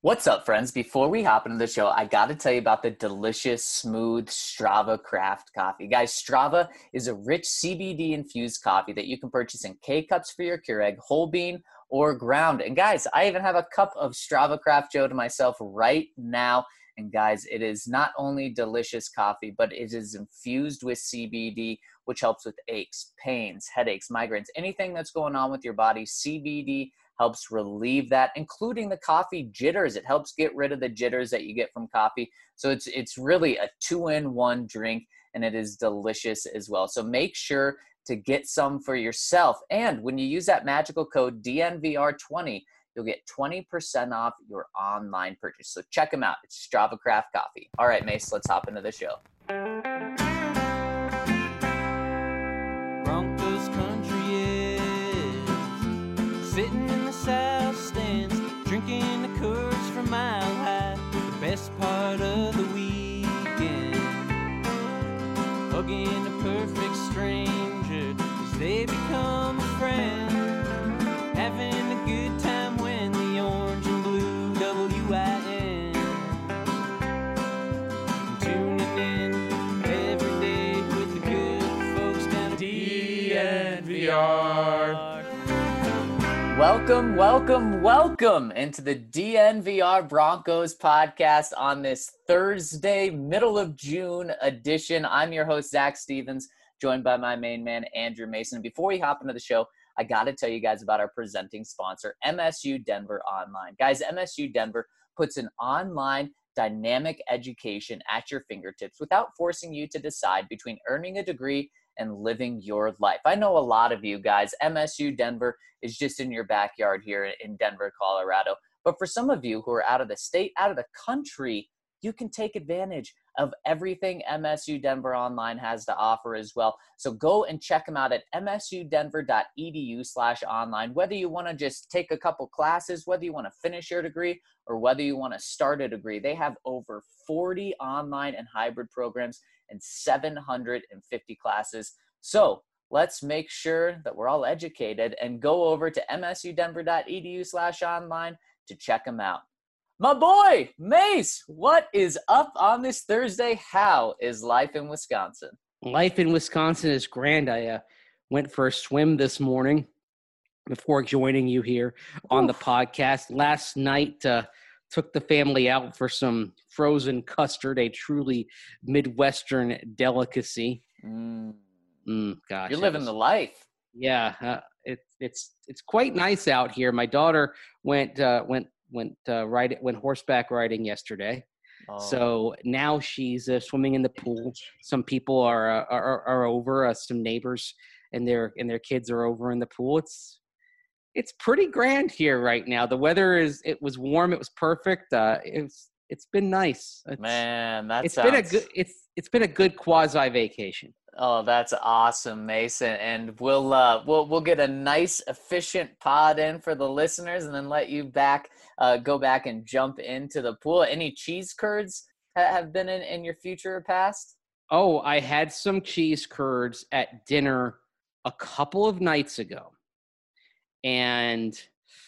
What's up, friends? Before we hop into the show, I got to tell you about the delicious, smooth Strava craft coffee. Guys, Strava is a rich CBD-infused coffee that you can purchase in K-Cups for your Keurig, whole bean, or ground. And guys, I even have a cup of Strava Craft Joe to myself right now. And guys, it is not only delicious coffee, but it is infused with CBD, which helps with aches, pains, headaches, migraines, anything that's going on with your body. CBD helps relieve that, including the coffee jitters. It helps get rid of the jitters that you get from coffee. So it's really a 2-in-1 drink, and it is delicious as well. So make sure to get some for yourself. And when you use that magical code DNVR20, you'll get 20% off your online purchase. So check them out. It's Strava Craft Coffee. All right, Mace, let's hop into the show. Broncos country is sitting in the south stands, drinking the Coors from Mile High. The best part of the weekend, hugging a perfect stranger as they become a friend, having a good time when the orange and blue WIN, tuning in every day with the good folks down at DNVR. Welcome into the DNVR Broncos podcast on this Thursday, middle of June edition. I'm your host, Zach Stevens, joined by my main man, Andrew Mason. And before we hop into the show, I got to tell you guys about our presenting sponsor, MSU Denver Online. Guys, MSU Denver puts an online dynamic education at your fingertips without forcing you to decide between earning a degree and living your life. I know a lot of you guys, MSU Denver is just in your backyard here in Denver, Colorado. But for some of you who are out of the state, out of the country, you can take advantage of everything MSU Denver Online has to offer as well. So go and check them out at msudenver.edu/online. Whether you want to just take a couple classes, whether you want to finish your degree, or whether you want to start a degree, they have over 40 online and hybrid programs and 750 classes. So let's make sure that we're all educated and go over to msudenver.edu/online to check them out. My boy, Mace, what is up on this Thursday? How is life in Wisconsin? Life in Wisconsin is grand. I went for a swim this morning before joining you here on the podcast. Last night, took the family out for some frozen custard, a truly Midwestern delicacy. Gosh, You're living the life. Yeah, it's quite nice out here. My daughter went horseback riding yesterday. So now she's swimming in the pool. Some people are over. Some neighbors and their kids are over in the pool. It's pretty grand here right now. The weather it was warm. It was perfect. It's been nice. It's been a good quasi vacation. Oh, that's awesome, Mason. And we'll get a nice, efficient pod in for the listeners, and then let you go back and jump into the pool. Any cheese curds have been in your future or past? Oh, I had some cheese curds at dinner a couple of nights ago, and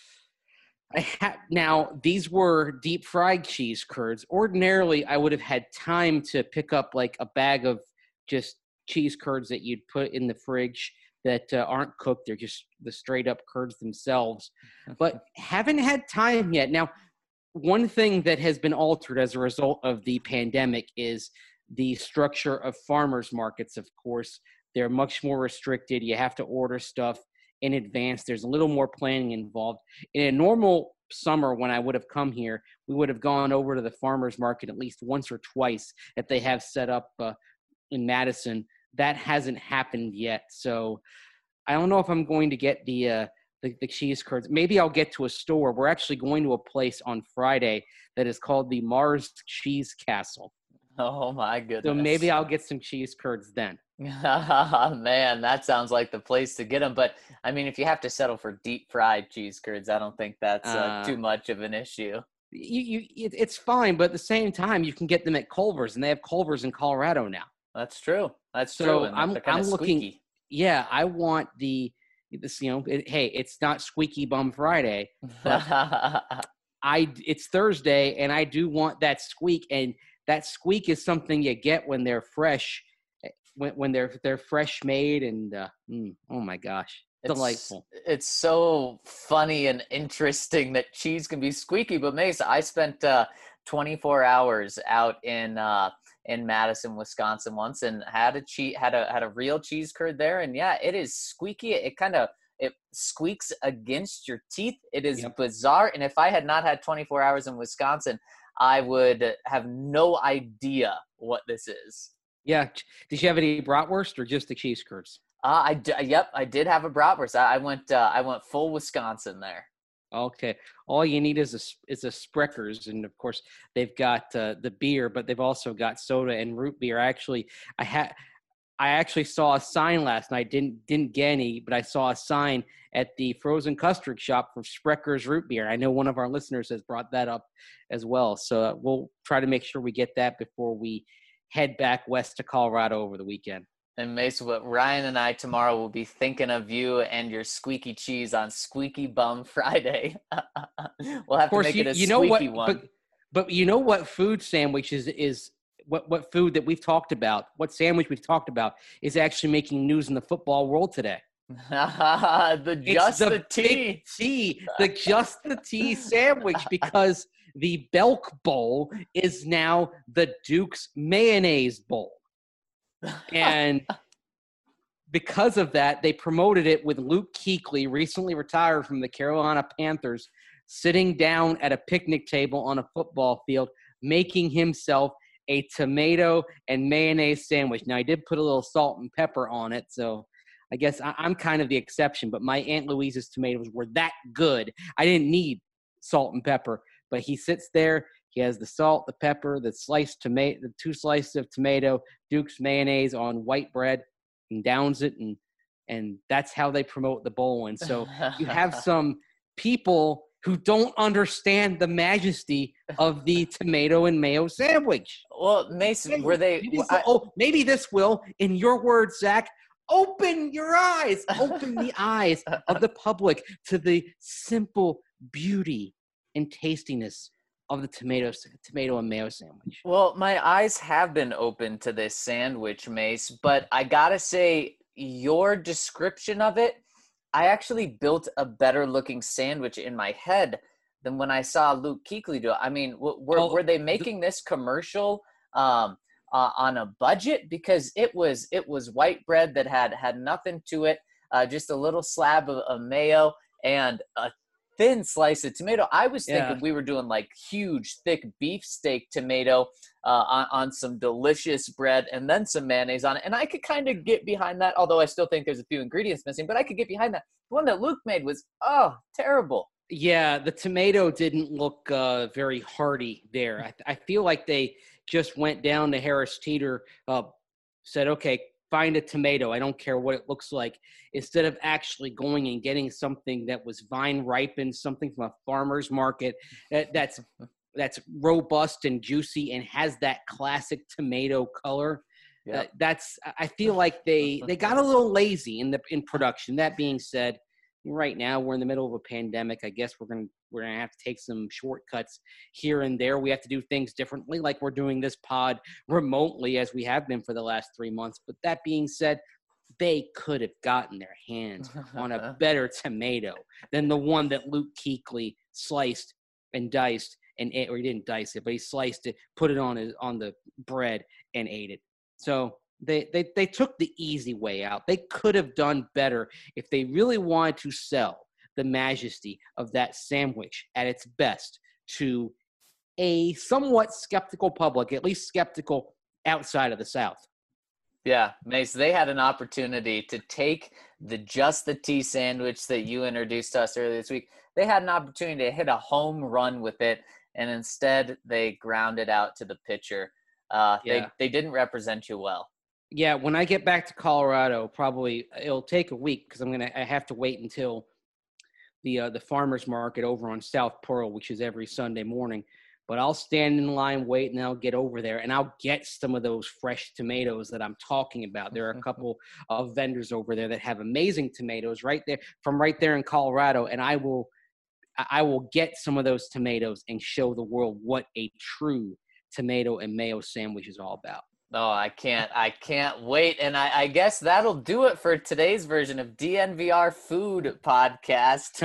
now these were deep fried cheese curds. Ordinarily, I would have had time to pick up like a bag of just cheese curds that you'd put in the fridge that aren't cooked. They're just the straight up curds themselves, but haven't had time yet. Now, one thing that has been altered as a result of the pandemic is the structure of farmers markets. Of course, they're much more restricted. You have to order stuff in advance. There's a little more planning involved. In a normal summer, when I would have come here, we would have gone over to the farmers market at least once or twice that they have set up in Madison. That hasn't happened yet. So I don't know if I'm going to get the cheese curds. Maybe I'll get to a store. We're actually going to a place on Friday that is called the Mars Cheese Castle. Oh my goodness. So maybe I'll get some cheese curds then. Man, that sounds like the place to get them. But I mean, if you have to settle for deep fried cheese curds, I don't think that's too much of an issue. It's fine, but at the same time, you can get them at Culver's, and they have Culver's in Colorado now. That's true. That's so true. And I'm looking. Yeah, I want this. Hey, it's not Squeaky Bum Friday. But it's Thursday, and I do want that squeak, and that squeak is something you get when they're fresh, when they're fresh made, and oh my gosh, delightful. It's so funny and interesting that cheese can be squeaky. But Mace, I spent 24 hours out in Madison, Wisconsin once, and had a real cheese curd there, and yeah, it is squeaky. It squeaks against your teeth. It is bizarre. And if I had not had 24 hours in Wisconsin, I would have no idea what this is. Yeah. Did you have any bratwurst or just the cheese curds? I did have a bratwurst. I went full Wisconsin there. Okay. All you need is a Spreckers, and of course they've got the beer, but they've also got soda and root beer. I actually saw a sign last night. Didn't get any, but I saw a sign at the frozen custard shop for Spreckers root beer. I know one of our listeners has brought that up as well. So we'll try to make sure we get that before we head back west to Colorado over the weekend. And Mace, what Ryan and I tomorrow will be thinking of you and your squeaky cheese on Squeaky Bum Friday. We'll have to make it a squeaky one. But you know what food sandwich is what food that we've talked about, what sandwich we've talked about is actually making news in the football world today. The Just the Tea sandwich, because the Belk Bowl is now the Duke's Mayonnaise Bowl. And because of that, they promoted it with Luke Kuechly, recently retired from the Carolina Panthers, sitting down at a picnic table on a football field, making himself a tomato and mayonnaise sandwich. Now, I did put a little salt and pepper on it, so I guess I'm kind of the exception, but my Aunt Louise's tomatoes were that good. I didn't need salt and pepper, but he sits there. He has the salt, the pepper, the sliced tomato, the 2 slices of tomato, Duke's mayonnaise on white bread, and downs it, and that's how they promote the bowl. And so you have some people who don't understand the majesty of the tomato and mayo sandwich. Well, Mason, maybe this will, in your words, Zach, open your eyes, open the eyes of the public to the simple beauty and tastiness of the tomato and mayo sandwich. Well, my eyes have been open to this sandwich, Mace, but I gotta say, your description of it, I actually built a better looking sandwich in my head than when I saw Luke Kuechly do it. I mean, were they making this commercial on a budget? Because it was white bread that had nothing to it, just a little slab of mayo and a thin slice of tomato. I was thinking we were doing like huge, thick beefsteak tomato on some delicious bread and then some mayonnaise on it. And I could kind of get behind that, although I still think there's a few ingredients missing, but I could get behind that. The one that Luke made was, terrible. Yeah, the tomato didn't look very hearty there. I feel like they just went down to Harris Teeter, said, okay, find a tomato. I don't care what it looks like. Instead of actually going and getting something that was vine ripened, something from a farmer's market that's robust and juicy and has that classic tomato color. Yeah. I feel like they got a little lazy in production. That being said, right now we're in the middle of a pandemic. I guess we're gonna have to take some shortcuts here and there. We have to do things differently, like we're doing this pod remotely as we have been for the last 3 months. But that being said, they could have gotten their hands on a better tomato than the one that Luke Kuechly sliced and diced or he didn't dice it, but he sliced it, put it on the bread and ate it. So they took the easy way out. They could have done better if they really wanted to sell the majesty of that sandwich at its best to a somewhat skeptical public, at least skeptical outside of the South. Yeah, Mace, they had an opportunity to take the Just the Tea sandwich that you introduced to us earlier this week. They had an opportunity to hit a home run with it, and instead they ground it out to the pitcher. They didn't represent you well. Yeah, when I get back to Colorado, probably it'll take a week because I have to wait until the farmers market over on South Pearl, which is every Sunday morning. But I'll stand in line, wait, and I'll get over there, and I'll get some of those fresh tomatoes that I'm talking about. There are a couple of vendors over there that have amazing tomatoes right there in Colorado, and I will I will get some of those tomatoes and show the world what a true tomato and mayo sandwich is all about. Oh, I can't wait. And I guess that'll do it for today's version of DNVR Food Podcast.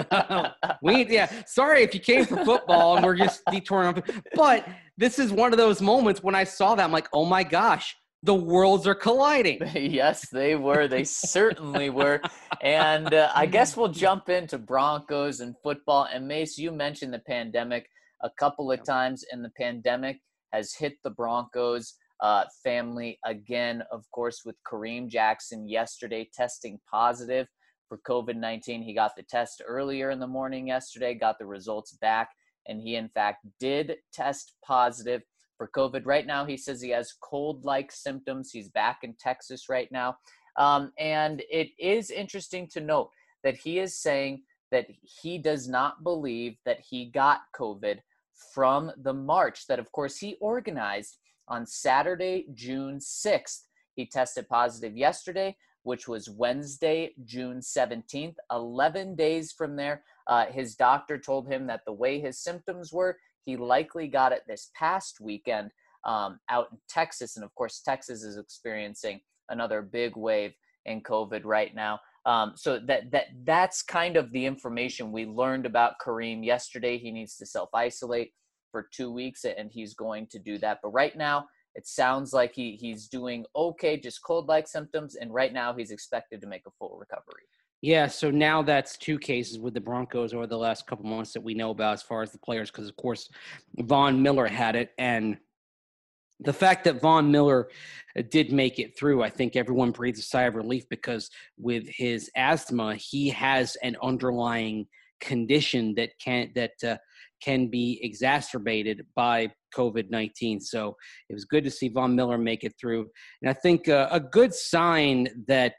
Sorry if you came for football and we're just detouring on, but this is one of those moments when I saw that, I'm like, oh my gosh, the worlds are colliding. Yes, they were. They certainly were. And I guess we'll jump into Broncos and football. And Mace, you mentioned the pandemic a couple of times, and the pandemic has hit the Broncos family again, of course, with Kareem Jackson yesterday testing positive for COVID-19. He got the test earlier in the morning yesterday, got the results back, and he, in fact, did test positive for COVID. Right now, he says he has cold-like symptoms. He's back in Texas right now. And it is interesting to note that he is saying that he does not believe that he got COVID from the march that, of course, he organized on Saturday, June 6th. He tested positive yesterday, which was Wednesday, June 17th. 11 days from there, his doctor told him that the way his symptoms were, he likely got it this past weekend out in Texas. And of course, Texas is experiencing another big wave in COVID right now. So that's kind of the information we learned about Kareem yesterday. He needs to self-isolate for 2 weeks, and he's going to do that. But right now, it sounds like he's doing okay, just cold-like symptoms, and right now he's expected to make a full recovery. Yeah, so now that's 2 cases with the Broncos over the last couple months that we know about as far as the players, because, of course, Von Miller had it. And the fact that Von Miller did make it through, I think everyone breathes a sigh of relief, because with his asthma, he has an underlying condition that can be exacerbated by COVID-19. So it was good to see Von Miller make it through. And I think a good sign that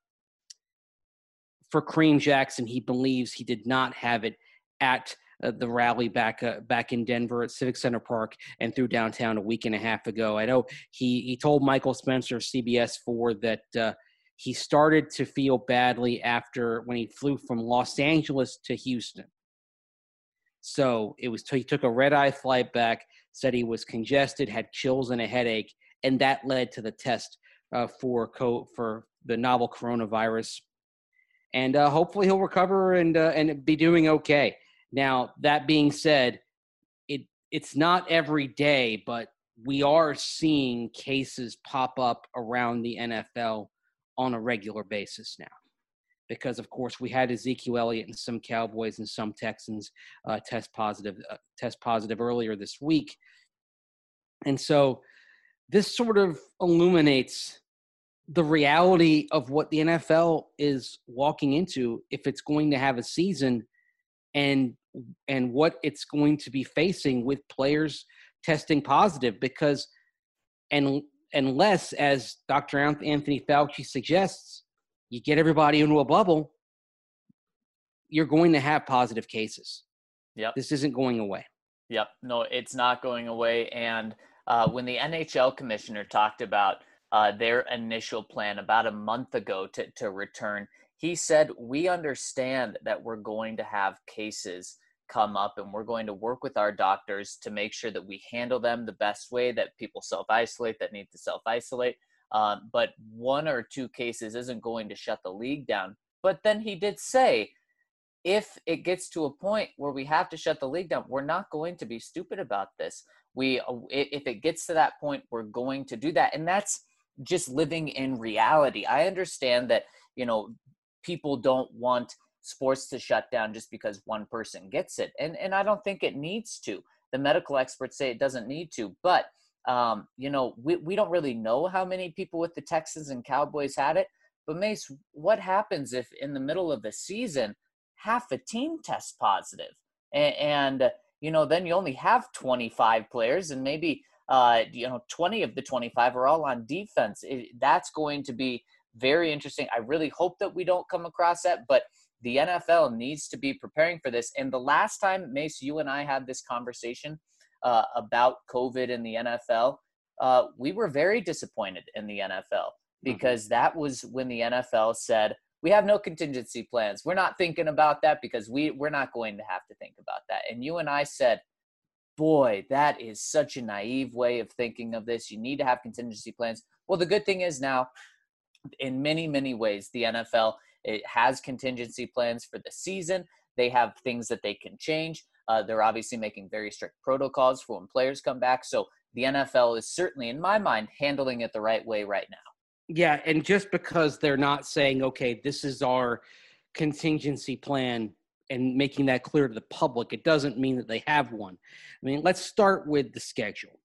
for Kareem Jackson, he believes he did not have it at the rally back in Denver at Civic Center Park and through downtown a week and a half ago. I know he told Michael Spencer, CBS4, that he started to feel badly when he flew from Los Angeles to Houston. So he took a red-eye flight back, said he was congested, had chills and a headache, and that led to the test for the novel coronavirus. And hopefully he'll recover and be doing okay. Now, that being said, it's not every day, but we are seeing cases pop up around the NFL on a regular basis now. Because, of course, we had Ezekiel Elliott and some Cowboys and some Texans test positive earlier this week. And so this sort of illuminates the reality of what the NFL is walking into if it's going to have a season, and what it's going to be facing with players testing positive. Because unless, as Dr. Anthony Fauci suggests, you get everybody into a bubble, you're going to have positive cases. Yep. This isn't going away. Yep. No, it's not going away. And when the NHL commissioner talked about their initial plan about a month ago to return, he said, we understand that we're going to have cases come up, and we're going to work with our doctors to make sure that we handle them the best way, that people self-isolate that need to self-isolate. But 1 or 2 cases isn't going to shut the league down. But then he did say, if it gets to a point where we have to shut the league down, we're not going to be stupid about this. If it gets to that point, we're going to do that. And that's just living in reality. I understand that, people don't want sports to shut down just because one person gets it. And I don't think it needs to. The medical experts say it doesn't need to. But we don't really know how many people with the Texans and Cowboys had it. But Mace, what happens if in the middle of the season, half a team tests positive? And then you only have 25 players, and maybe 20 of the 25 are all on defense. That's going to be very interesting. I really hope that we don't come across that, but the NFL needs to be preparing for this. And the last time, Mace, you and I had this conversation about COVID in the NFL, we were very disappointed in the NFL, because that was when the NFL said, we have no contingency plans. We're not thinking about that because we're not going to have to think about that. And you and I said, boy, that is such a naive way of thinking of this. You need to have contingency plans. Well, the good thing is now, in many, many ways, the NFL, it has contingency plans for the season. They have things that they can change. They're obviously making very strict protocols for when players come back. So the NFL is certainly, in my mind, handling it the right way right now. Yeah, and just because they're not saying, okay, this is our contingency plan and making that clear to the public, it doesn't mean that they have one. I mean, let's start with the schedule.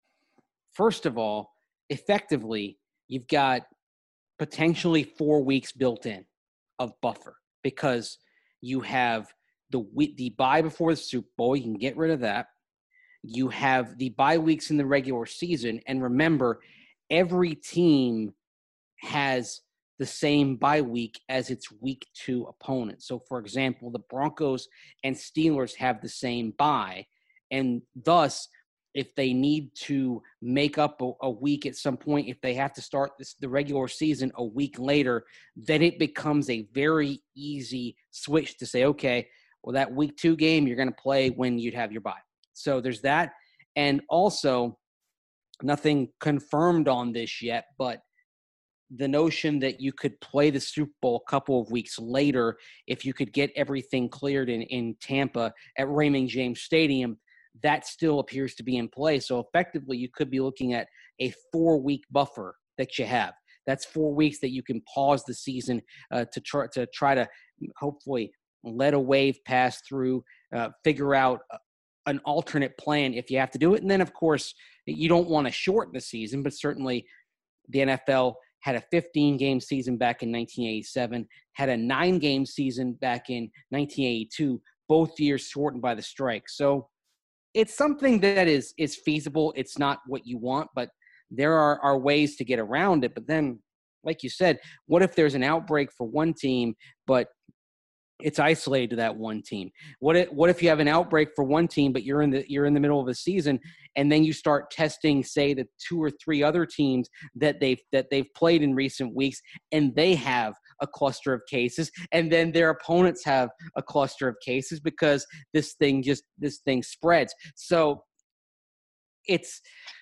First of all, effectively, you've got potentially 4 weeks built in of buffer because you have the bye before the Super Bowl. You can get rid of that. You have the bye weeks in the regular season. And remember, every team has the same bye week as its week 2 opponent. So, for example, the Broncos and Steelers have the same bye. And thus, if they need to make up a week at some point, if they have to start the regular season a week later, then it becomes a very easy switch to say, okay, well, that week 2 game you're going to play when you'd have your bye. So there's that. And also, nothing confirmed on this yet, but the notion that you could play the Super Bowl a couple of weeks later if you could get everything cleared in Tampa at Raymond James Stadium, that still appears to be in play. So effectively, you could be looking at a 4-week buffer that you have. That's 4 weeks that you can pause the season to try to hopefully let a wave pass through, figure out an alternate plan if you have to do it. And then, of course, you don't want to shorten the season, but certainly the NFL had a 15-game season back in 1987, had a 9-game season back in 1982, both years shortened by the strike. So it's something that is feasible. It's not what you want, but there are ways to get around it. But then, like you said, what if there's an outbreak for one team, but it's isolated to that one team? What if you have an outbreak for one team, but you're in the middle of a season, and then you start testing, say, the 2 or 3 other teams that they've played in recent weeks, and they have a cluster of cases, and then their opponents have a cluster of cases because this thing spreads. So it's,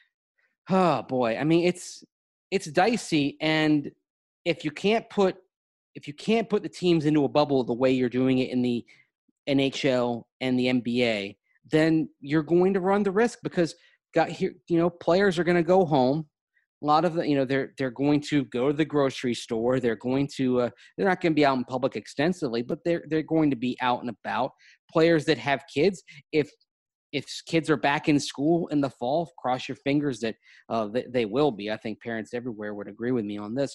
oh boy, I mean, it's dicey, and if you can't put the teams into a bubble the way you're doing it in the NHL and the NBA, then you're going to run the risk because players are going to go home. A lot of they're going to go to the grocery store. They're going to they're not going to be out in public extensively, but they're going to be out and about. Players that have kids, if kids are back in school in the fall, cross your fingers that they will be. I think parents everywhere would agree with me on this.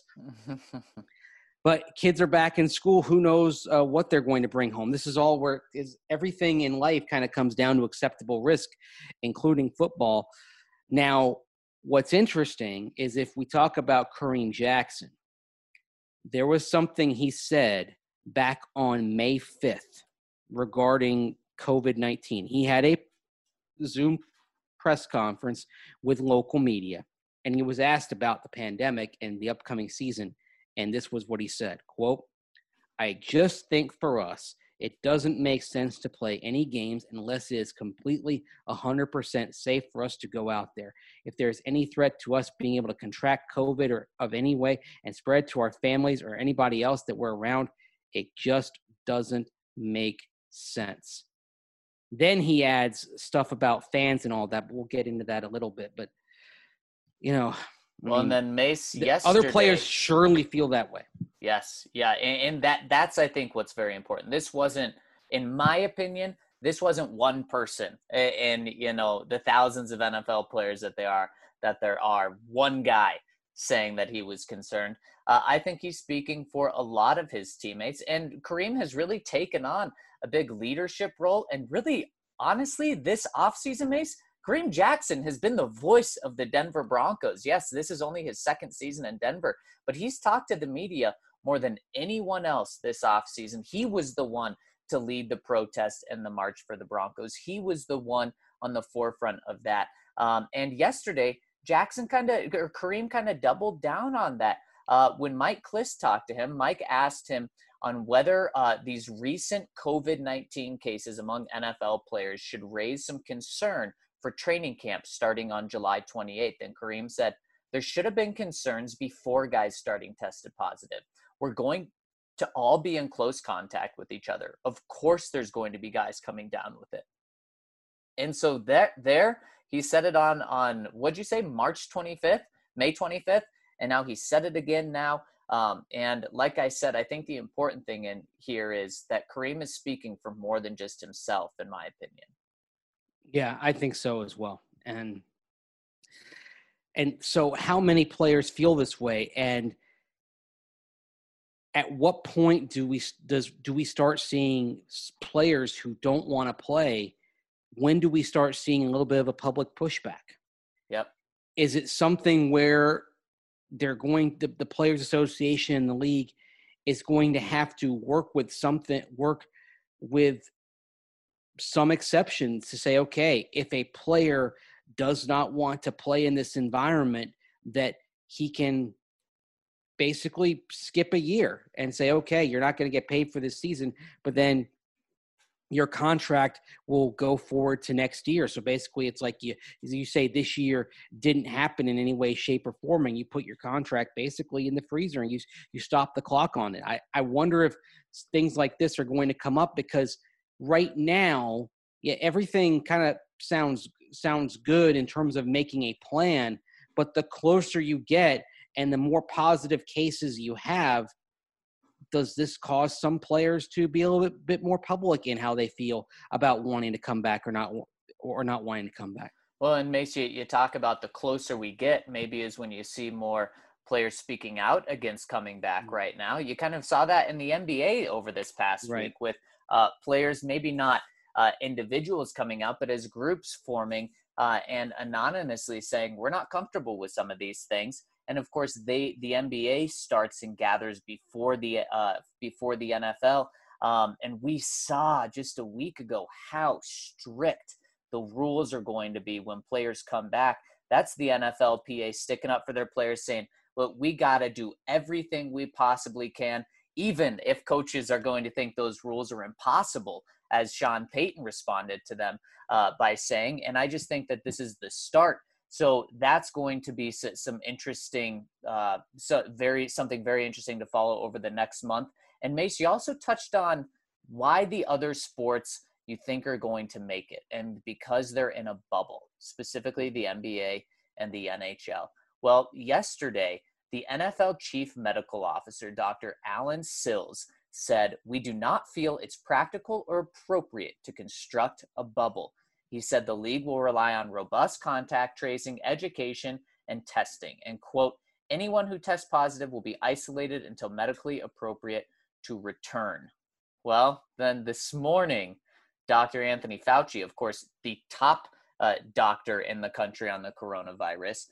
But kids are back in school. Who knows what they're going to bring home? This is all where everything in life kind of comes down to acceptable risk, including football. Now, what's interesting is if we talk about Kareem Jackson, there was something he said back on May 5th regarding COVID-19. He had a Zoom press conference with local media, and he was asked about the pandemic and the upcoming season. And this was what he said, quote, "I just think for us, it doesn't make sense to play any games unless it is completely 100% safe for us to go out there. If there's any threat to us being able to contract COVID or of any way and spread to our families or anybody else that we're around, it just doesn't make sense." Then he adds stuff about fans and all that, but we'll get into that a little bit. But, and then Mace, yesterday, other players surely feel that way. Yes. Yeah. And that's, I think, what's very important. This wasn't, in my opinion, this wasn't one person and, the thousands of NFL players that there are one guy saying that he was concerned. I think he's speaking for a lot of his teammates, and Kareem has really taken on a big leadership role. And really, honestly, this offseason, Mace, Kareem Jackson has been the voice of the Denver Broncos. Yes, this is only his second season in Denver, but he's talked to the media more than anyone else this offseason. He was the one to lead the protest and the march for the Broncos. He was the one on the forefront of that. And yesterday, Kareem kind of doubled down on that. when Mike Klis talked to him, Mike asked him on whether these recent COVID-19 cases among NFL players should raise some concern for training camp starting on July 28th. And Kareem said, there should have been concerns before guys starting tested positive. We're going to all be in close contact with each other. Of course, there's going to be guys coming down with it. And so there he said it on what'd you say, March 25th, May 25th, and now he said it again now. And like I said, I think the important thing in here is that Kareem is speaking for more than just himself, in my opinion. Yeah, I think so as well. And so how many players feel this way? And at what point do we start seeing players who don't want to play? When do we start seeing a little bit of a public pushback? Yep. Is it something where the Players Association and the league is going to have to work with some exceptions to say, okay, if a player does not want to play in this environment, that he can basically skip a year and say, okay, you're not going to get paid for this season, but then your contract will go forward to next year. So basically it's like you say this year didn't happen in any way, shape, or form, and you put your contract basically in the freezer and you stop the clock on it. I wonder if things like this are going to come up, because right now, everything kind of sounds good in terms of making a plan, but the closer you get and the more positive cases you have, does this cause some players to be a little bit more public in how they feel about wanting to come back or not wanting to come back? Well, and Mace, you talk about the closer we get, maybe is when you see more players speaking out against coming back right now. You kind of saw that in the NBA over this past week with players, maybe not individuals coming out, but as groups forming and anonymously saying, we're not comfortable with some of these things. And of course, the NBA starts and gathers before the NFL. And we saw just a week ago how strict the rules are going to be when players come back. That's the NFLPA sticking up for their players, saying, look, we got to do everything we possibly can, even if coaches are going to think those rules are impossible, as Sean Payton responded to them by saying. And I just think that this is the start. So that's going to be some interesting, something very interesting to follow over the next month. And Mace, you also touched on why the other sports you think are going to make it, and because they're in a bubble, specifically the NBA and the NHL. Well, yesterday, the NFL Chief Medical Officer, Dr. Alan Sills, said, we do not feel it's practical or appropriate to construct a bubble. He said the league will rely on robust contact tracing, education, and testing. And, quote, anyone who tests positive will be isolated until medically appropriate to return. Well, then this morning, Dr. Anthony Fauci, of course, the top doctor in the country on the coronavirus,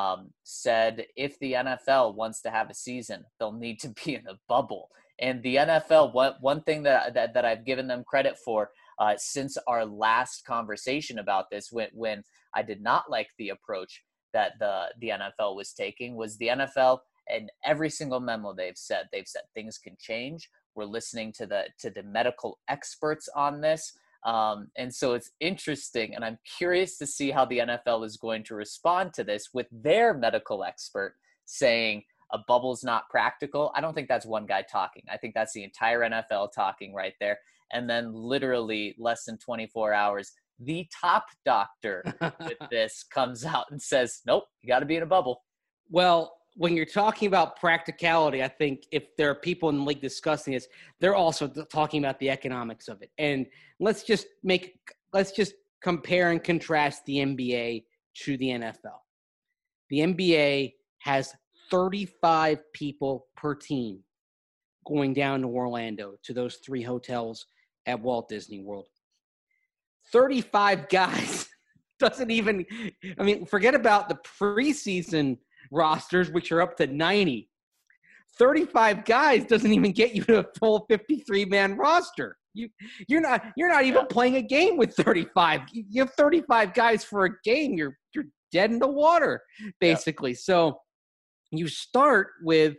said if the NFL wants to have a season, they'll need to be in a bubble. And the NFL, one thing that I've given them credit for since our last conversation about this, when I did not like the approach that the NFL was taking, was the NFL, and every single memo they've said things can change. We're listening to the medical experts on this. And so it's interesting, and I'm curious to see how the NFL is going to respond to this with their medical expert saying a bubble's not practical. I don't think that's one guy talking. I think that's the entire NFL talking right there. And then literally less than 24 hours, the top doctor with this comes out and says, nope, you got to be in a bubble. Well, when you're talking about practicality, I think if there are people in the league discussing this, they're also talking about the economics of it. And let's just compare and contrast the NBA to the NFL. The NBA has 35 people per team going down to Orlando to those 3 hotels at Walt Disney World. 35 guys doesn't even, forget about the preseason rosters, which are up to 90. 35 guys doesn't even get you to a full 53-man roster. You're not even playing a game with 35. You have 35 guys for a game. You're dead in the water, basically. Yeah. So You start with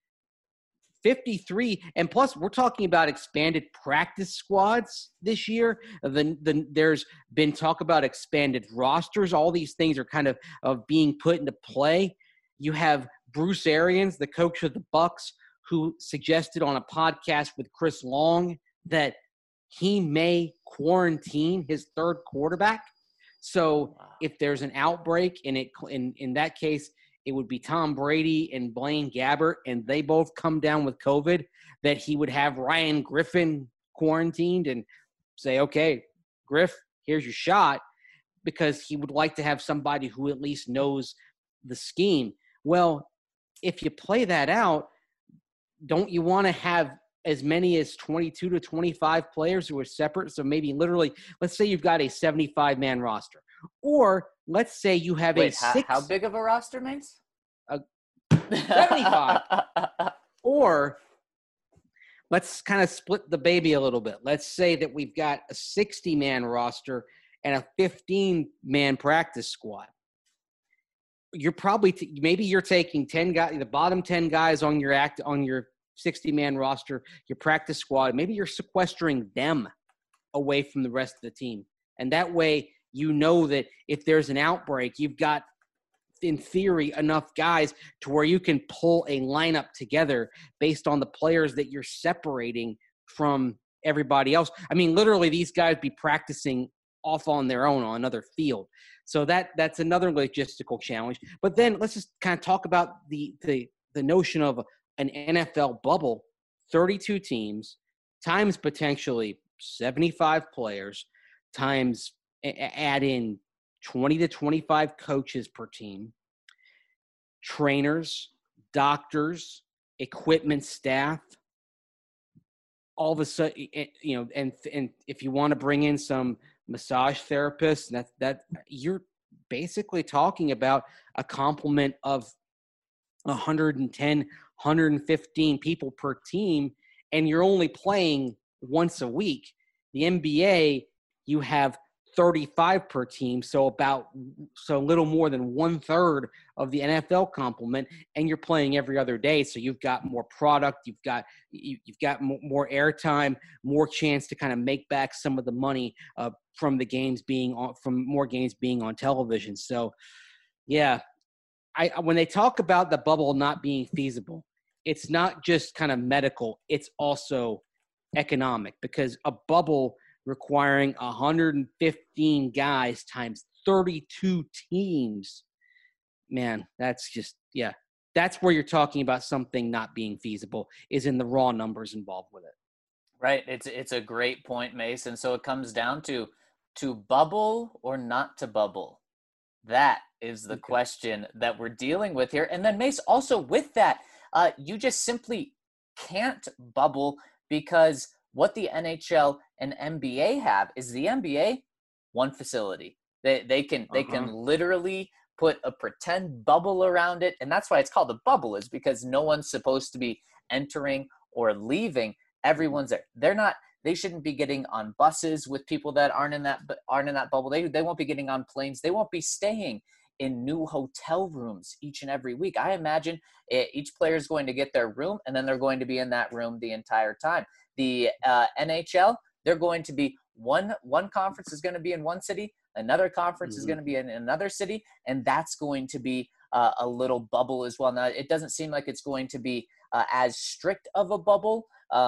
53, and plus we're talking about expanded practice squads this year. There's been talk about expanded rosters. All these things are kind of being put into play. You have Bruce Arians, the coach of the Bucs, who suggested on a podcast with Chris Long that he may quarantine his third quarterback. So if there's an outbreak, and in that case, it would be Tom Brady and Blaine Gabbert, and they both come down with COVID, that he would have Ryan Griffin quarantined and say, okay, Griff, here's your shot, because he would like to have somebody who at least knows the scheme. Well, if you play that out, don't you want to have as many as 22 to 25 players who are separate? So maybe literally, let's say you've got a 75-man roster. Or let's say you have how big of a roster, Mace? 75. Or let's kind of split the baby a little bit. Let's say that we've got a 60-man roster and a 15-man practice squad. You're probably maybe you're taking 10 guys, the bottom 10 guys on your 60-man roster, your practice squad. Maybe you're sequestering them away from the rest of the team, and that way you know that if there's an outbreak, you've got, in theory, enough guys to where you can pull a lineup together based on the players that you're separating from everybody else. I mean, literally, these guys be practicing off on their own on another field. So that's another logistical challenge. But then let's just kind of talk about the notion of an NFL bubble, 32 teams, times potentially 75 players, times add in 20 to 25 coaches per team, trainers, doctors, equipment staff. All of a sudden, and if you want to bring in some massage therapists, that you're basically talking about a complement of 110, 115 people per team, and you're only playing once a week. The NBA, you have 35 per team, so a little more than 1/3 of the NFL complement, and you're playing every other day. So you've got more product, you've got more airtime, more chance to kind of make back some of the money from more games being on television. So, yeah, when they talk about the bubble not being feasible, it's not just kind of medical; it's also economic, because a bubble requiring 115 guys times 32 teams, man, that's just, that's where you're talking about something not being feasible, is in the raw numbers involved with it. Right. It's a great point, Mace. And so it comes down to bubble or not to bubble. That is the question that we're dealing with here. And then, Mace, also with that, you just simply can't bubble, because what the NHL and NBA have is the NBA, one facility. They can literally put a pretend bubble around it, and that's why it's called a bubble, is because no one's supposed to be entering or leaving. Everyone's there. They shouldn't be getting on buses with people that aren't in that bubble. They won't be getting on planes. They won't be staying in new hotel rooms each and every week. I imagine each player is going to get their room, and then they're going to be in that room the entire time. The NHL, they're going to be one conference is going to be in one city, another conference is going to be in another city, and that's going to be a little bubble as well. Now, it doesn't seem like it's going to be as strict of a bubble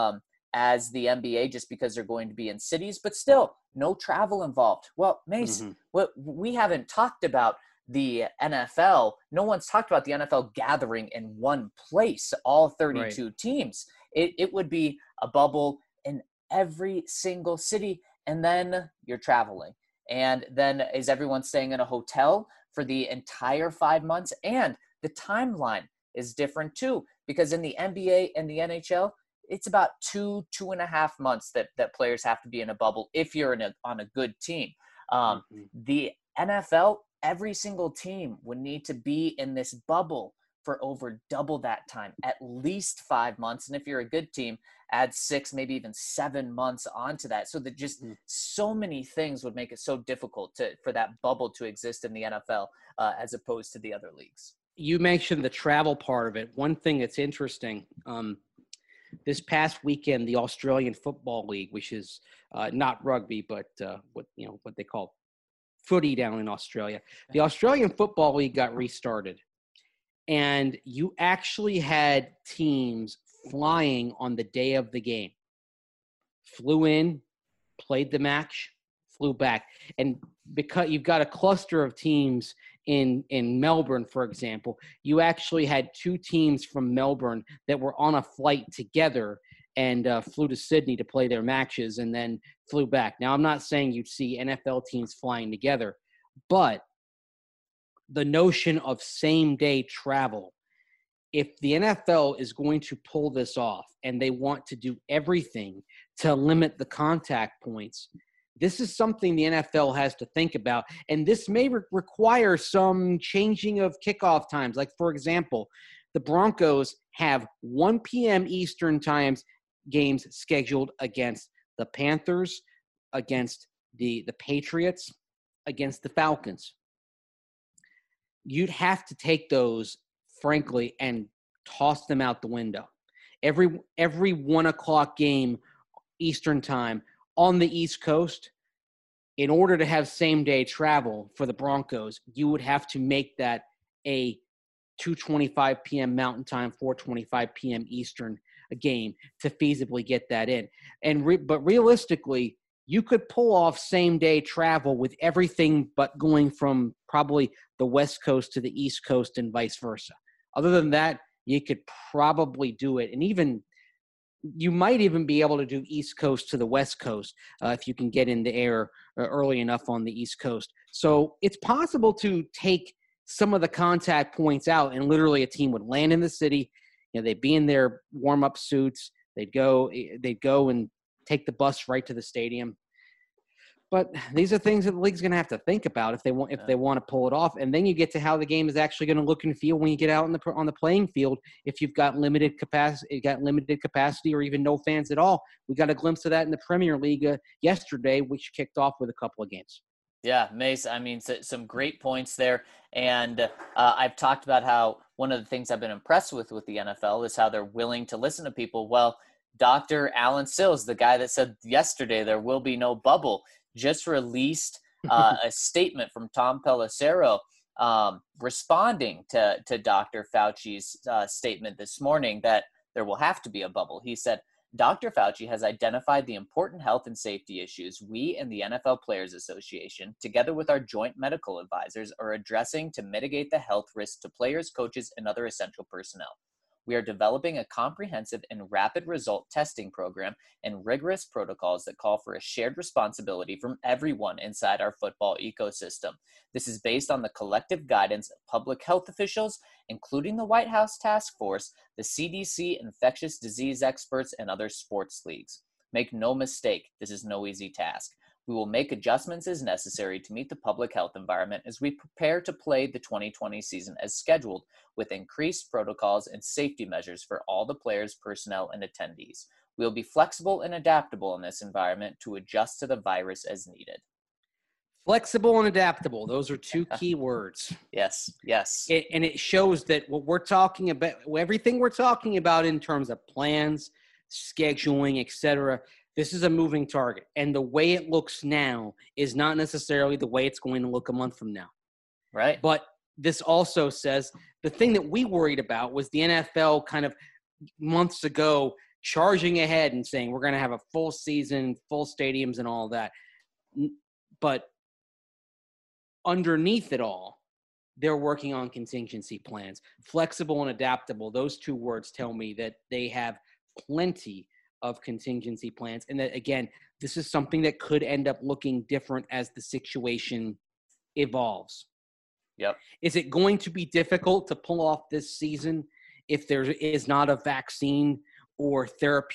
as the NBA, just because they're going to be in cities, but still no travel involved. Well, Mace, what we haven't talked about the NFL. No one's talked about the NFL gathering in one place, all 32 teams. It would be a bubble in every single city, and then you're traveling. And then is everyone staying in a hotel for the entire 5 months? And the timeline is different too, because in the NBA and the NHL, it's about 2.5 months that players have to be in a bubble if you're on a good team. The NFL, every single team would need to be in this bubble for over double that time, at least 5 months. And if you're a good team, add 6, maybe even 7 months onto that. So that just so many things would make it so difficult for that bubble to exist in the NFL as opposed to the other leagues. You mentioned the travel part of it. One thing that's interesting, this past weekend, the Australian Football League, which is not rugby, but what they call footy down in Australia, the Australian Football League got restarted, and you actually had teams flying on the day of the game. Flew in, played the match, flew back, and because you've got a cluster of teams in Melbourne, for example, you actually had two teams from Melbourne that were on a flight together and flew to Sydney to play their matches and then flew back. Now, I'm not saying you'd see NFL teams flying together, but the notion of same-day travel, if the NFL is going to pull this off and they want to do everything to limit the contact points, this is something the NFL has to think about, and this may require some changing of kickoff times. Like, for example, the Broncos have 1 p.m. Eastern times games scheduled against the Panthers, against the Patriots, against the Falcons. You'd have to take those, frankly, and toss them out the window. Every 1 o'clock game Eastern time on the East Coast, in order to have same-day travel for the Broncos, you would have to make that a 2:25 p.m. Mountain Time, 4:25 p.m. Eastern game to feasibly get that in. But realistically, you could pull off same-day travel with everything but going from probably the West Coast to the East Coast and vice versa. Other than that, you could probably do it. And even you might even be able to do East Coast to the West Coast if you can get in the air early enough on the East Coast. So it's possible to take some of the contact points out, and literally a team would land in the city. They'd be in their warm-up suits. They'd go and take the bus right to the stadium. But these are things that the league's going to have to think about if they want to pull it off. And then you get to how the game is actually going to look and feel when you get out on the playing field. If you've got limited capacity, or even no fans at all, we got a glimpse of that in the Premier League yesterday, which kicked off with a couple of games. Yeah, Mace, I mean, some great points there. And I've talked about how one of the things I've been impressed with the NFL is how they're willing to listen to people. Well, Dr. Alan Sills, the guy that said yesterday there will be no bubble, just released a statement from Tom Pelissero responding to Dr. Fauci's statement this morning that there will have to be a bubble. He said, Dr. Fauci has identified the important health and safety issues we and the NFL Players Association, together with our joint medical advisors, are addressing to mitigate the health risks to players, coaches, and other essential personnel. We are developing a comprehensive and rapid result testing program and rigorous protocols that call for a shared responsibility from everyone inside our football ecosystem. This is based on the collective guidance of public health officials, including the White House Task Force, the CDC, infectious disease experts, and other sports leagues. Make no mistake, this is no easy task. We will make adjustments as necessary to meet the public health environment as we prepare to play the 2020 season as scheduled, with increased protocols and safety measures for all the players, personnel, and attendees. We will be flexible and adaptable in this environment to adjust to the virus as needed. Flexible and adaptable. Those are two key words. Yes. And it shows that what we're talking about, everything we're talking about in terms of plans, scheduling, etc., this is a moving target. And the way it looks now is not necessarily the way it's going to look a month from now. Right. But this also says the thing that we worried about was the NFL kind of months ago charging ahead and saying we're going to have a full season, full stadiums and all that. But underneath it all, they're working on contingency plans. Flexible and adaptable, those two words tell me that they have plenty of contingency plans, and that, again, this is something that could end up looking different as the situation evolves. Yep. Is it going to be difficult to pull off this season if there is not a vaccine or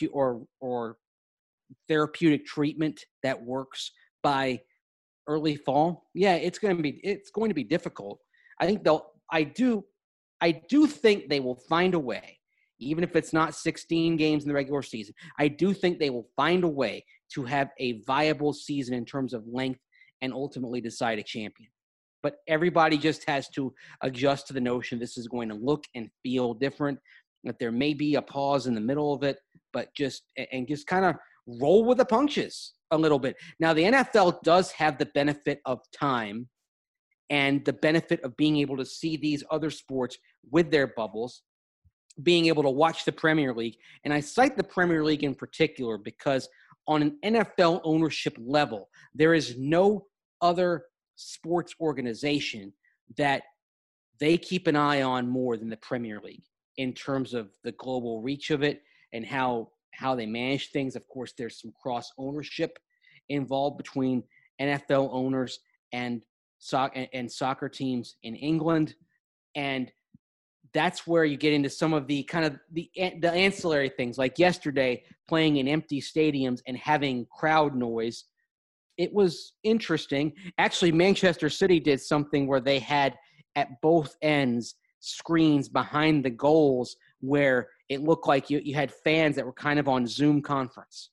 therapeutic treatment that works by early fall? Yeah, it's going to be difficult. I do think they will find a way. Even if it's not 16 games in the regular season, I do think they will find a way to have a viable season in terms of length and ultimately decide a champion. but everybody just has to adjust to the notion this is going to look and feel different, that there may be a pause in the middle of it, but just kind of roll with the punches a little bit. Now, the NFL does have the benefit of time and the benefit of being able to see these other sports with their bubbles, being able to watch the Premier League. And I cite the Premier League in particular because on an NFL ownership level, there is no other sports organization that they keep an eye on more than the Premier League in terms of the global reach of it and how they manage things. Of course, there's some cross ownership involved between NFL owners and soccer teams in England. And that's where you get into some of the kind of the ancillary things, like yesterday playing in empty stadiums and having crowd noise. It was interesting. Actually, Manchester City did something where they had at both ends screens behind the goals where it looked like you had fans that were kind of on Zoom conference.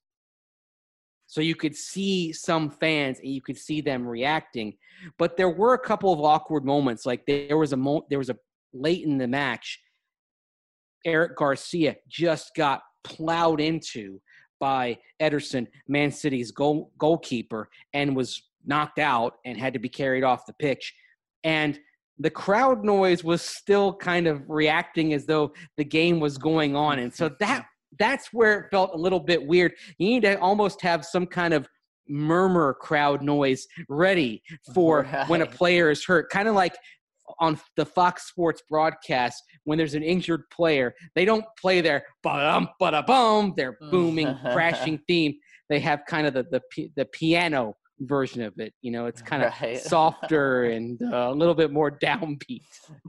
So you could see some fans and you could see them reacting. But there were a couple of awkward moments. Like there was a late in the match, Eric Garcia just got plowed into by Ederson, Man City's goalkeeper, and was knocked out and had to be carried off the pitch. And the crowd noise was still kind of reacting as though the game was going on. And so that's where it felt a little bit weird. You need to almost have some kind of murmur crowd noise ready for when a player is hurt. Kind of like on the Fox Sports broadcast, when there's an injured player, they don't play their ba-dum, ba-da-bum, their booming, crashing theme. They have kind of the piano version of it. You know, it's kind of softer and a little bit more downbeat.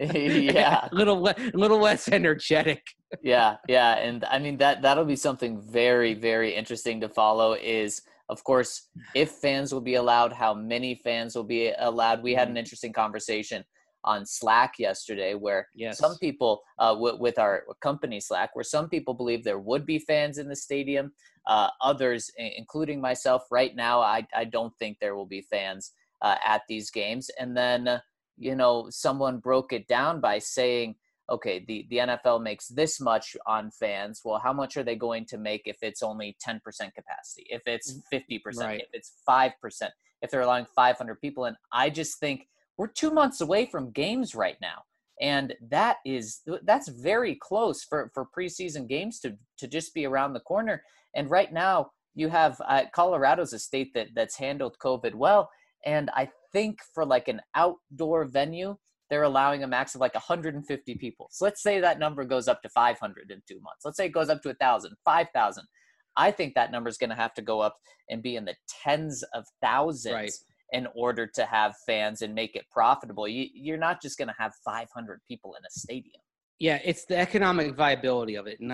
Yeah. a little less energetic. Yeah. And I mean, that'll be something very, very interesting to follow is, of course, if fans will be allowed, how many fans will be allowed. We had an interesting conversation on Slack yesterday where some people with our company Slack, where some people believe there would be fans in the stadium. Others, including myself right now, I don't think there will be fans at these games. And then, someone broke it down by saying, okay, the NFL makes this much on fans. Well, how much are they going to make if it's only 10% capacity, if it's 50%, if it's 5%, if they're allowing 500 people? And I just think we're 2 months away from games right now. And that's very close for preseason games to just be around the corner. And right now you have Colorado's a state that's handled COVID well. And I think for like an outdoor venue, they're allowing a max of like 150 people. So let's say that number goes up to 500 in 2 months. Let's say it goes up to 1,000, 5,000. I think that number is going to have to go up and be in the tens of thousands in order to have fans and make it profitable. You're not just going to have 500 people in a stadium. Yeah, it's the economic viability of it.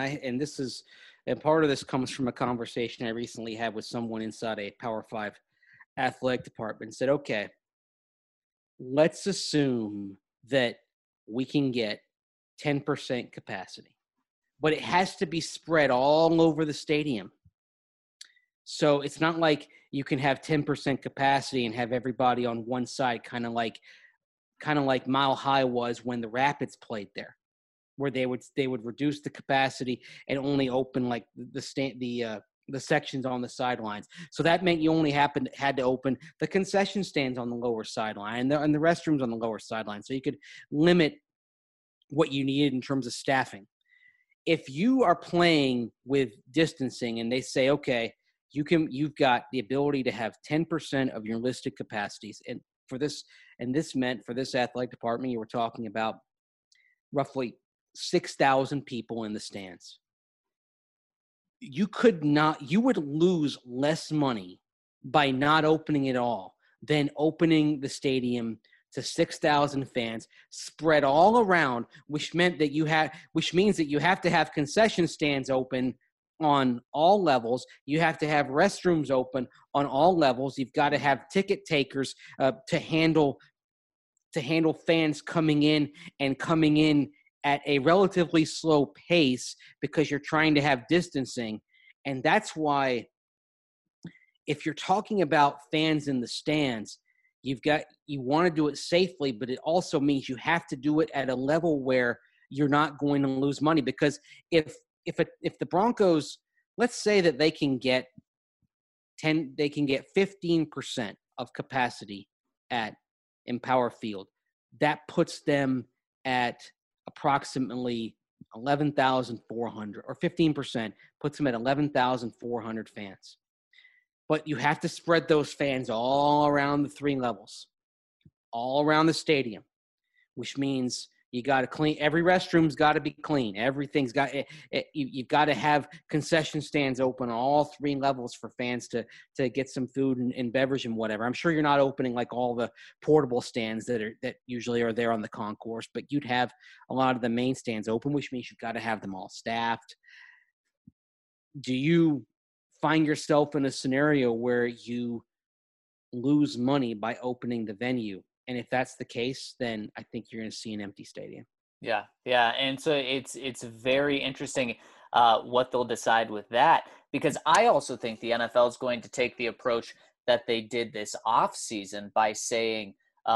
And part of this comes from a conversation I recently had with someone inside a Power 5 athletic department. Said, okay, let's assume that we can get 10% capacity, but it has to be spread all over the stadium. So it's not like you can have 10% capacity and have everybody on one side, kind of like Mile High was when the Rapids played there, where they would reduce the capacity and only open like the sections on the sidelines. So that meant you only had to open the concession stands on the lower sideline and the restrooms on the lower sideline. So you could limit what you needed in terms of staffing. If you are playing with distancing and they say, okay, you've got the ability to have 10% of your listed capacities. And this meant for this athletic department, you were talking about roughly 6,000 people in the stands. You would lose less money by not opening it all than opening the stadium to 6,000 fans spread all around, which means that you have to have concession stands open on all levels. You have to have restrooms open on all levels. You've got to have ticket takers to handle fans coming in at a relatively slow pace because you're trying to have distancing. And that's why if you're talking about fans in the stands, you want to do it safely, but it also means you have to do it at a level where you're not going to lose money. Because if the Broncos, let's say that they can get 15% of capacity at Empower Field, that puts them at approximately 11,400, or 15% puts them at 11,400 fans. But you have to spread those fans all around the 3 levels, all around the stadium, which means you got to clean. Every restroom's got to be clean. Everything's got you've got to have concession stands open on all 3 levels for fans to get some food and beverage and whatever. I'm sure you're not opening like all the portable stands that usually are there on the concourse, but you'd have a lot of the main stands open, which means you've got to have them all staffed. Do you find yourself in a scenario where you lose money by opening the venue? And if that's the case, then I think you're going to see an empty stadium. Yeah. And so it's very interesting what they'll decide with that, because I also think the NFL is going to take the approach that they did this off season by saying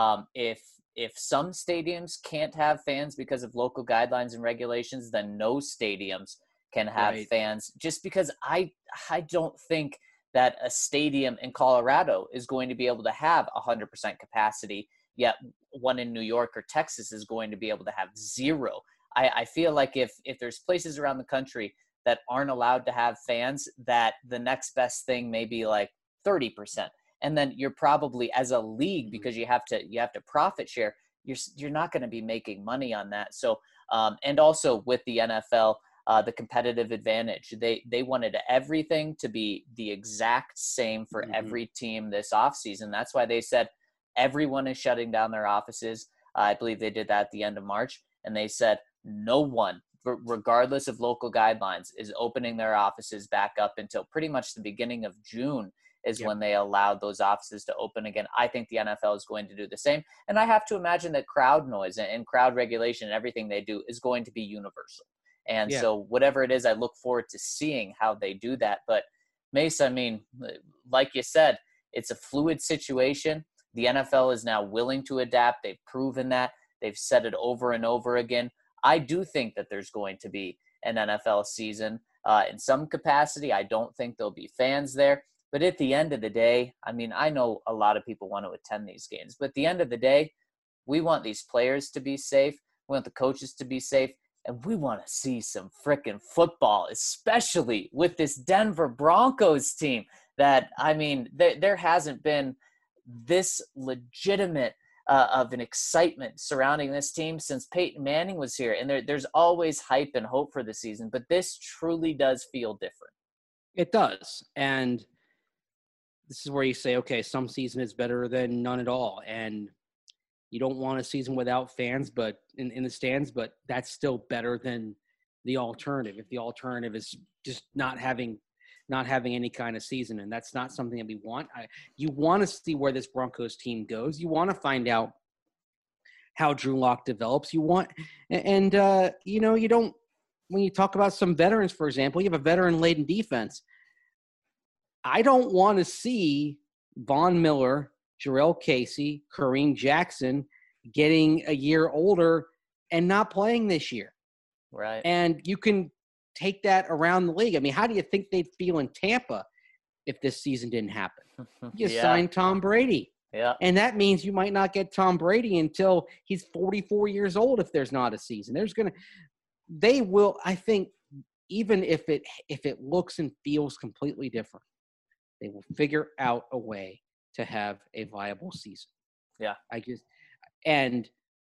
if some stadiums can't have fans because of local guidelines and regulations, then no stadiums can have fans, just because I don't think that a stadium in Colorado is going to be able to have 100% capacity, yet one in New York or Texas is going to be able to have 0. I feel like if there's places around the country that aren't allowed to have fans, that the next best thing may be like 30%. And then you're probably, as a league, because you have to profit share, you're not going to be making money on that. So and also with the NFL, the competitive advantage, they wanted everything to be the exact same for every team this offseason. That's why they said everyone is shutting down their offices. I believe they did that at the end of March. And they said no one, regardless of local guidelines, is opening their offices back up until pretty much the beginning of June is when they allowed those offices to open again. I think the NFL is going to do the same. And I have to imagine that crowd noise and crowd regulation and everything they do is going to be universal. And so whatever it is, I look forward to seeing how they do that. But Mace, I mean, like you said, it's a fluid situation. The NFL is now willing to adapt. They've proven that. They've said it over and over again. I do think that there's going to be an NFL season in some capacity. I don't think there'll be fans there. But at the end of the day, I mean, I know a lot of people want to attend these games. But at the end of the day, we want these players to be safe. We want the coaches to be safe. And we want to see some frickin' football, especially with this Denver Broncos team that, I mean, there hasn't been this legitimate of an excitement surrounding this team since Peyton Manning was here. And there's always hype and hope for the season, but this truly does feel different. It does. And this is where you say, okay, some season is better than none at all. And you don't want a season without fans, but in the stands, but that's still better than the alternative. If the alternative is just not having any kind of season, and that's not something that we want. You want to see where this Broncos team goes. You want to find out how Drew Lock develops. You want, and you don't. When you talk about some veterans, for example, you have a veteran-laden defense. I don't want to see Von Miller, Jarrell Casey, Kareem Jackson getting a year older and not playing this year. Right. And you can take that around the league. I mean, how do you think they'd feel in Tampa if this season didn't happen? You signed Tom Brady. Yeah. And that means you might not get Tom Brady until he's 44 years old if there's not a season. They will, I think, even if it looks and feels completely different, they will figure out a way to have a viable season. Yeah. And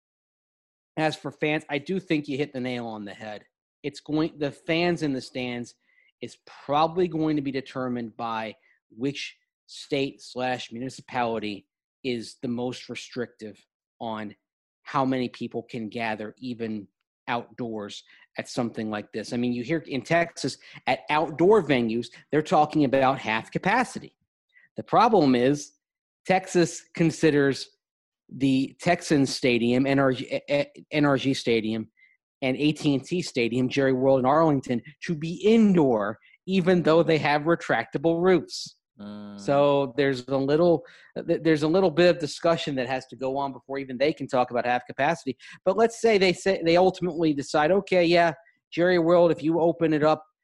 as for fans, I do think you hit the nail on the head. The fans in the stands is probably going to be determined by which state/municipality is the most restrictive on how many people can gather even outdoors at something like this. I mean, you hear in Texas at outdoor venues, they're talking about half capacity. The problem is Texas considers the Texans Stadium, NRG Stadium, and AT&T Stadium, Jerry World in Arlington, to be indoor, even though they have retractable roofs. So there's a little bit of discussion that has to go on before even they can talk about half capacity. But let's say they ultimately decide, okay, yeah, Jerry World, if you open it up,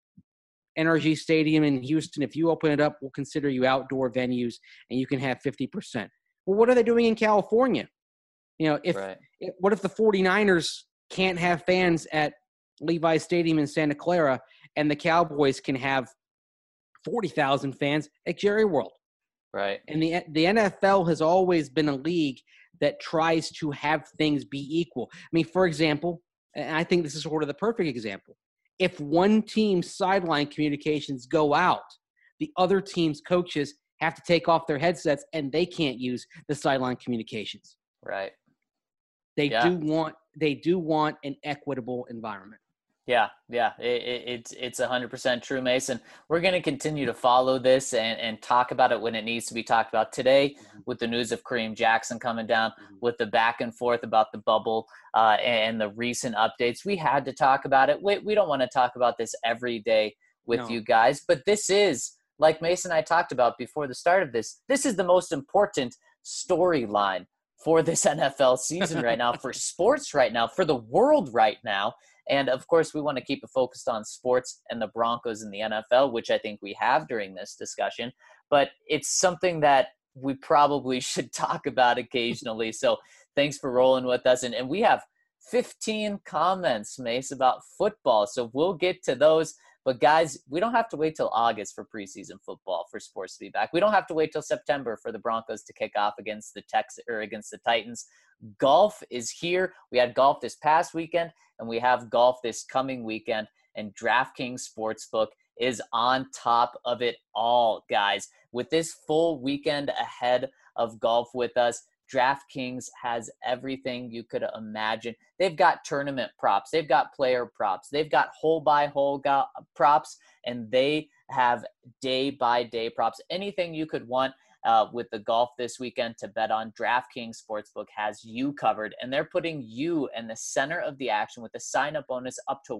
NRG Stadium in Houston, if you open it up, we'll consider you outdoor venues and you can have 50%. Well, what are they doing in California? You know, what if the 49ers can't have fans at Levi's Stadium in Santa Clara and the Cowboys can have 40,000 fans at Jerry World? Right. And the NFL has always been a league that tries to have things be equal. I mean, for example, and I think this is sort of the perfect example. If one team's sideline communications go out, the other team's coaches have to take off their headsets and they can't use the sideline communications. Right. They do want an equitable environment. Yeah. It's 100% true, Mason. We're going to continue to follow this and talk about it when it needs to be talked about. Today, with the news of Kareem Jackson coming down, with the back and forth about the bubble and the recent updates, we had to talk about it. We don't want to talk about this every day with you guys, but this is, like Mason and I talked about before the start of this is the most important storyline for this NFL season right now, for sports right now, for the world right now. And, of course, we want to keep it focused on sports and the Broncos and the NFL, which I think we have during this discussion. But it's something that we probably should talk about occasionally. So thanks for rolling with us. And we have 15 comments, Mace, about football. So we'll get to those. But, guys, we don't have to wait till August for preseason football for sports to be back. We don't have to wait till September for the Broncos to kick off against the Titans. Golf is here. We had golf this past weekend, and we have golf this coming weekend. And DraftKings Sportsbook is on top of it all, guys. With this full weekend ahead of golf with us, DraftKings has everything you could imagine. They've got tournament props. They've got player props. They've got hole-by-hole props, and they have day-by-day props. Anything you could want with the golf this weekend to bet on, DraftKings Sportsbook has you covered, and they're putting you in the center of the action with a sign-up bonus up to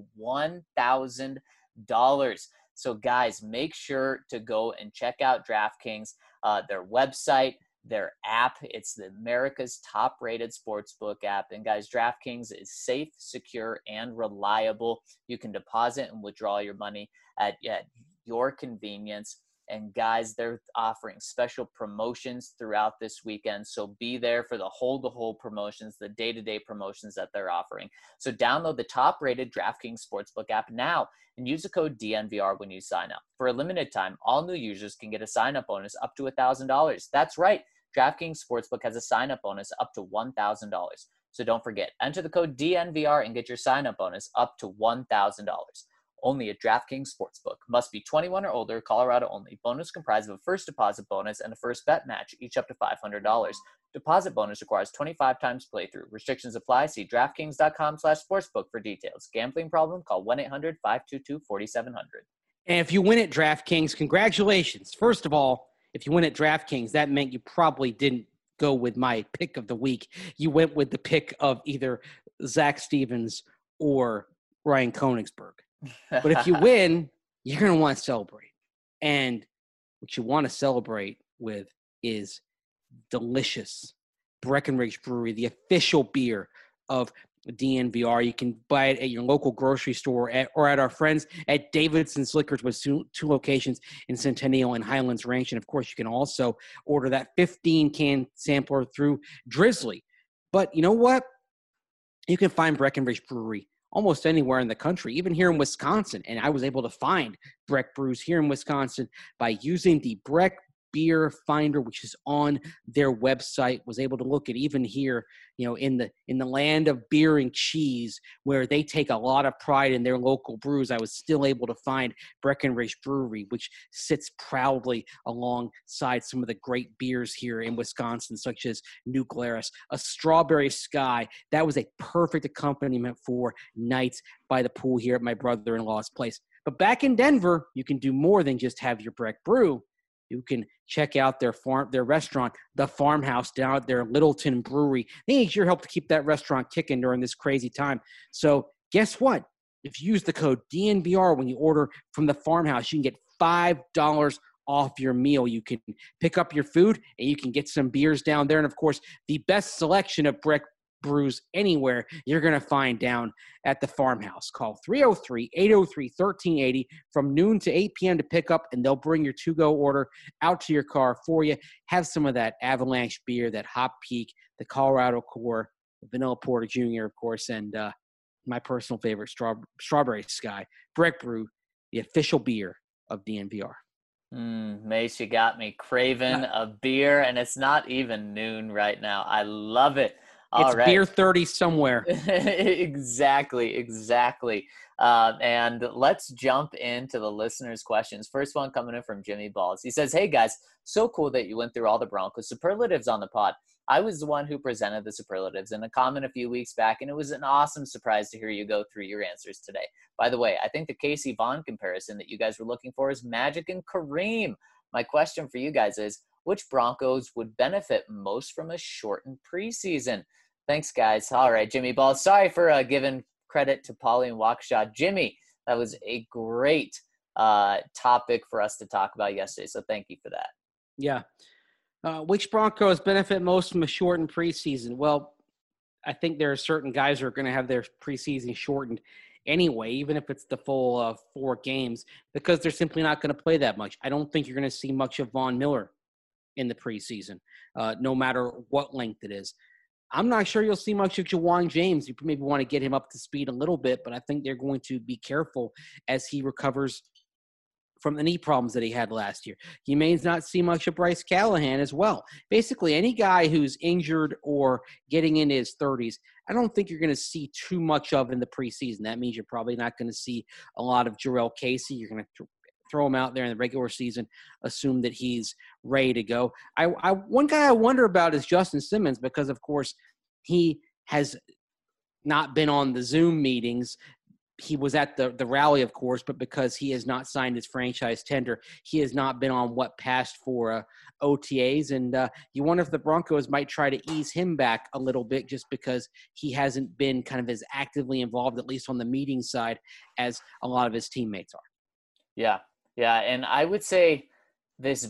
$1,000. So, guys, make sure to go and check out DraftKings, their website, their app. It's America's top-rated sportsbook app. And, guys, DraftKings is safe, secure, and reliable. You can deposit and withdraw your money at your convenience. And, guys, they're offering special promotions throughout this weekend. So be there for the hole-to-hole promotions, the day-to-day promotions that they're offering. So download the top-rated DraftKings Sportsbook app now and use the code DNVR when you sign up. For a limited time, all new users can get a sign-up bonus up to $1,000. That's right. DraftKings Sportsbook has a sign-up bonus up to $1,000. So don't forget, enter the code DNVR and get your sign-up bonus up to $1,000. Only at DraftKings Sportsbook. Must be 21 or older, Colorado only. Bonus comprised of a first deposit bonus and a first bet match, each up to $500. Deposit bonus requires 25 times playthrough. Restrictions apply. See DraftKings.com/sportsbook for details. Gambling problem? Call 1-800-522-4700. And if you win at DraftKings, congratulations. First of all, if you win at DraftKings, that meant you probably didn't go with my pick of the week. You went with the pick of either Zach Stevens or Ryan Koenigsberg. But if you win, you're going to want to celebrate. And what you want to celebrate with is delicious Breckenridge Brewery, the official beer of DNVR. You can buy it at your local grocery store or at our friends at Davidson's Liquors with two locations in Centennial and Highlands Ranch. And, of course, you can also order that 15-can sampler through Drizzly. But you know what? You can find Breckenridge Brewery almost anywhere in the country, even here in Wisconsin. And I was able to find Breck Brews here in Wisconsin by using the Breck Beer Finder, which is on their website. Was able to look at even here, in the land of beer and cheese, where they take a lot of pride in their local brews. I was still able to find Breckenridge Brewery, which sits proudly alongside some of the great beers here in Wisconsin, such as New Glarus, a Strawberry Sky. That was a perfect accompaniment for nights by the pool here at my brother-in-law's place. But back in Denver, you can do more than just have your Breck Brew. You can check out their restaurant, The Farmhouse, down at their Littleton Brewery. They need your help to keep that restaurant kicking during this crazy time. So guess what? If you use the code DNVR when you order from The Farmhouse, you can get $5 off your meal. You can pick up your food and you can get some beers down there. And of course, the best selection of Breck brews anywhere you're going to find down at the Farmhouse. Call 303-803-1380 from noon to 8 p.m. to pick up, and they'll bring your to-go order out to your car for you. Have some of that Avalanche beer, that Hop Peak, the Colorado Core, the Vanilla Porter Jr., of course, and my personal favorite, Strawberry Sky. Breck Brew, the official beer of DNVR. Mace, you got me craving a beer, and it's not even noon right now. I love it. All it's right. beer 30 somewhere. Exactly. And let's jump into the listeners' questions. First one coming in from Jimmy Balls. He says, hey, guys, so cool that you went through all the Broncos superlatives on the pod. I was the one who presented the superlatives in a comment a few weeks back, and it was an awesome surprise to hear you go through your answers today. By the way, I think the Casey Vaughn comparison that you guys were looking for is Magic and Kareem. My question for you guys is, which Broncos would benefit most from a shortened preseason? Thanks, guys. All right, Jimmy Ball. Sorry for giving credit to Paulie and Waukesha. Jimmy, that was a great topic for us to talk about yesterday, so thank you for that. Yeah. Which Broncos benefit most from a shortened preseason? Well, I think there are certain guys who are going to have their preseason shortened anyway, even if it's the full 4 games, because they're simply not going to play that much. I don't think you're going to see much of Von Miller in the preseason, no matter what length it is. I'm not sure you'll see much of Jawan James. You maybe want to get him up to speed a little bit, but I think they're going to be careful as he recovers from the knee problems that he had last year. You may not see much of Bryce Callahan as well. Basically, any guy who's injured or getting into his 30s, I don't think you're going to see too much of in the preseason. That means you're probably not going to see a lot of Jarrell Casey. You're going to throw him out there in the regular season, assume that he's ready to go. One guy I wonder about is Justin Simmons, because, of course, he has not been on the Zoom meetings. He was at the rally, of course, but because he has not signed his franchise tender, he has not been on what passed for OTAs. And you wonder if the Broncos might try to ease him back a little bit, just because he hasn't been kind of as actively involved, at least on the meeting side, as a lot of his teammates are. Yeah. And I would say this,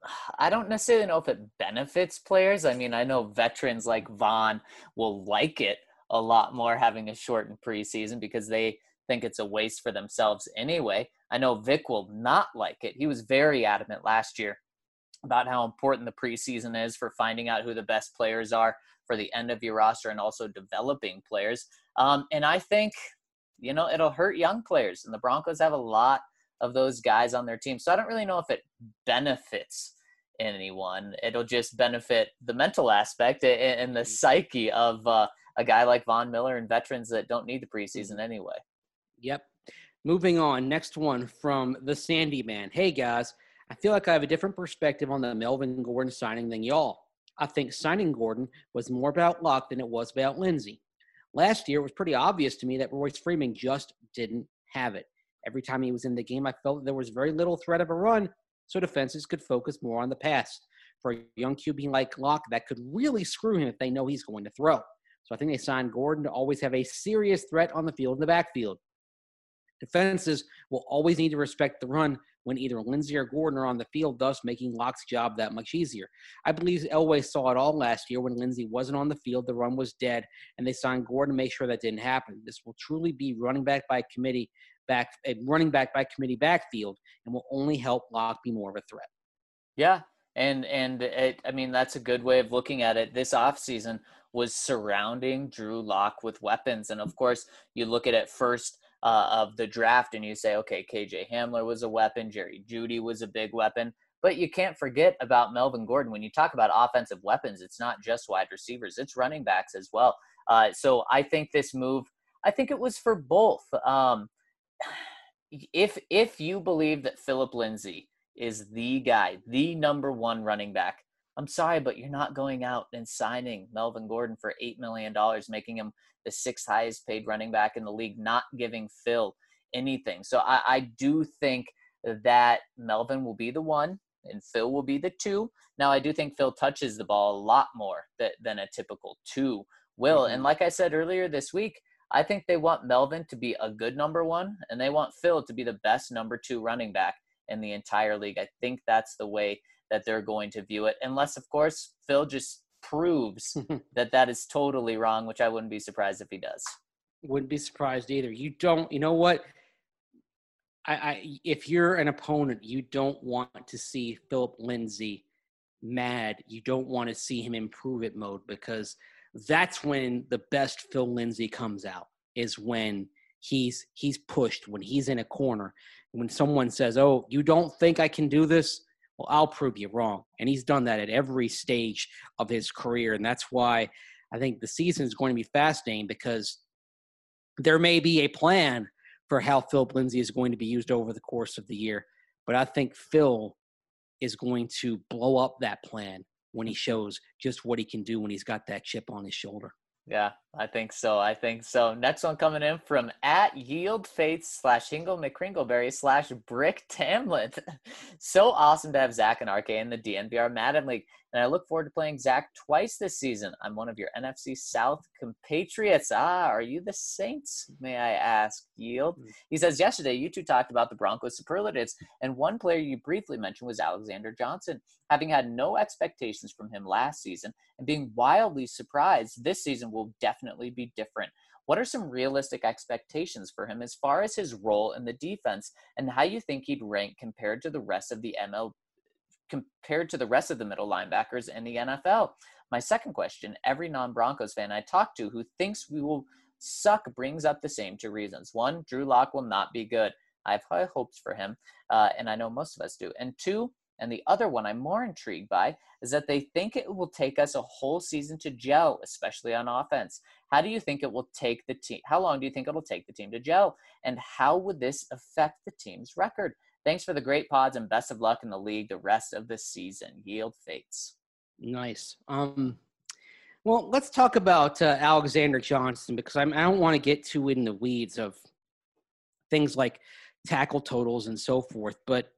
I don't necessarily know if it benefits players. I mean, I know veterans like Vaughn will like it a lot more having a shortened preseason because they think it's a waste for themselves anyway. I know Vic will not like it. He was very adamant last year about how important the preseason is for finding out who the best players are for the end of your roster and also developing players. And I think, it'll hurt young players, and the Broncos have a lot of those guys on their team. So I don't really know if it benefits anyone. It'll just benefit the mental aspect and the psyche of a guy like Von Miller and veterans that don't need the preseason anyway. Yep. Moving on. Next one from the Sandy Man. Hey, guys. I feel like I have a different perspective on the Melvin Gordon signing than y'all. I think signing Gordon was more about luck than it was about Lindsey. Last year, it was pretty obvious to me that Royce Freeman just didn't have it. Every time he was in the game, I felt there was very little threat of a run, so defenses could focus more on the pass. For a young QB like Locke, that could really screw him if they know he's going to throw. So I think they signed Gordon to always have a serious threat on the field in the backfield. Defenses will always need to respect the run when either Lindsey or Gordon are on the field, thus making Locke's job that much easier. I believe Elway saw it all last year when Lindsey wasn't on the field, the run was dead, and they signed Gordon to make sure that didn't happen. This will truly be running back by committee backfield, and will only help Locke be more of a threat. Yeah, and that's a good way of looking at it. This offseason was surrounding Drew Lock with weapons, and of course, you look at it first of the draft, and you say, okay, KJ Hamler was a weapon, Jerry Jeudy was a big weapon, but you can't forget about Melvin Gordon. When you talk about offensive weapons, it's not just wide receivers, it's running backs as well. So I think this move, I think it was for both. If you believe that Phillip Lindsay is the guy, the number one running back, I'm sorry, but you're not going out and signing Melvin Gordon for $8 million, making him the 6th highest paid running back in the league, not giving Phil anything. So I do think that Melvin will be the 1 and Phil will be the 2. Now, I do think Phil touches the ball a lot more than a typical 2 will. Mm-hmm. And like I said earlier this week, I think they want Melvin to be a good number 1, and they want Phil to be the best number 2 running back in the entire league. I think that's the way that they're going to view it, unless, of course, Phil just proves that is totally wrong, which I wouldn't be surprised if he does. Wouldn't be surprised either. You know what? If you're an opponent, you don't want to see Philip Lindsay mad. You don't want to see him in prove it mode, because that's when the best Phil Lindsay comes out, is when he's pushed, when he's in a corner. When someone says, "Oh, you don't think I can do this?" Well, I'll prove you wrong. And he's done that at every stage of his career. And that's why I think the season is going to be fascinating, because there may be a plan for how Philip Lindsay is going to be used over the course of the year. But I think Phil is going to blow up that plan when he shows just what he can do when he's got that chip on his shoulder. Yeah, I think so. Next one coming in from @YieldFates/Hingle McCringleberry/Brick Tamlet. So awesome to have Zach and RK in the DNVR Madden League, and I look forward to playing Zach twice this season. I'm one of your NFC South compatriots. Are you the Saints, may I ask, Yield? He says, yesterday you two talked about the Broncos superlatives, and one player you briefly mentioned was Alexander Johnson. Having had no expectations from him last season and being wildly surprised, this season will definitely be different. What are some realistic expectations for him as far as his role in the defense, and how you think he'd rank compared to the rest of the middle linebackers in the NFL? My second question, every non-Broncos fan I talk to who thinks we will suck brings up the same two reasons. One, Drew Lock will not be good. I have high hopes for him, and I know most of us do. And two, and the other one I'm more intrigued by, is that they think it will take us a whole season to gel, especially on offense. How do you think it will take the team? How long do you think it will take the team to gel? And how would this affect the team's record? Thanks for the great pods and best of luck in the league the rest of the season. Yield Fates. Nice. Well, let's talk about Alexander Johnson, because I don't want to get too in the weeds of things like tackle totals and so forth, but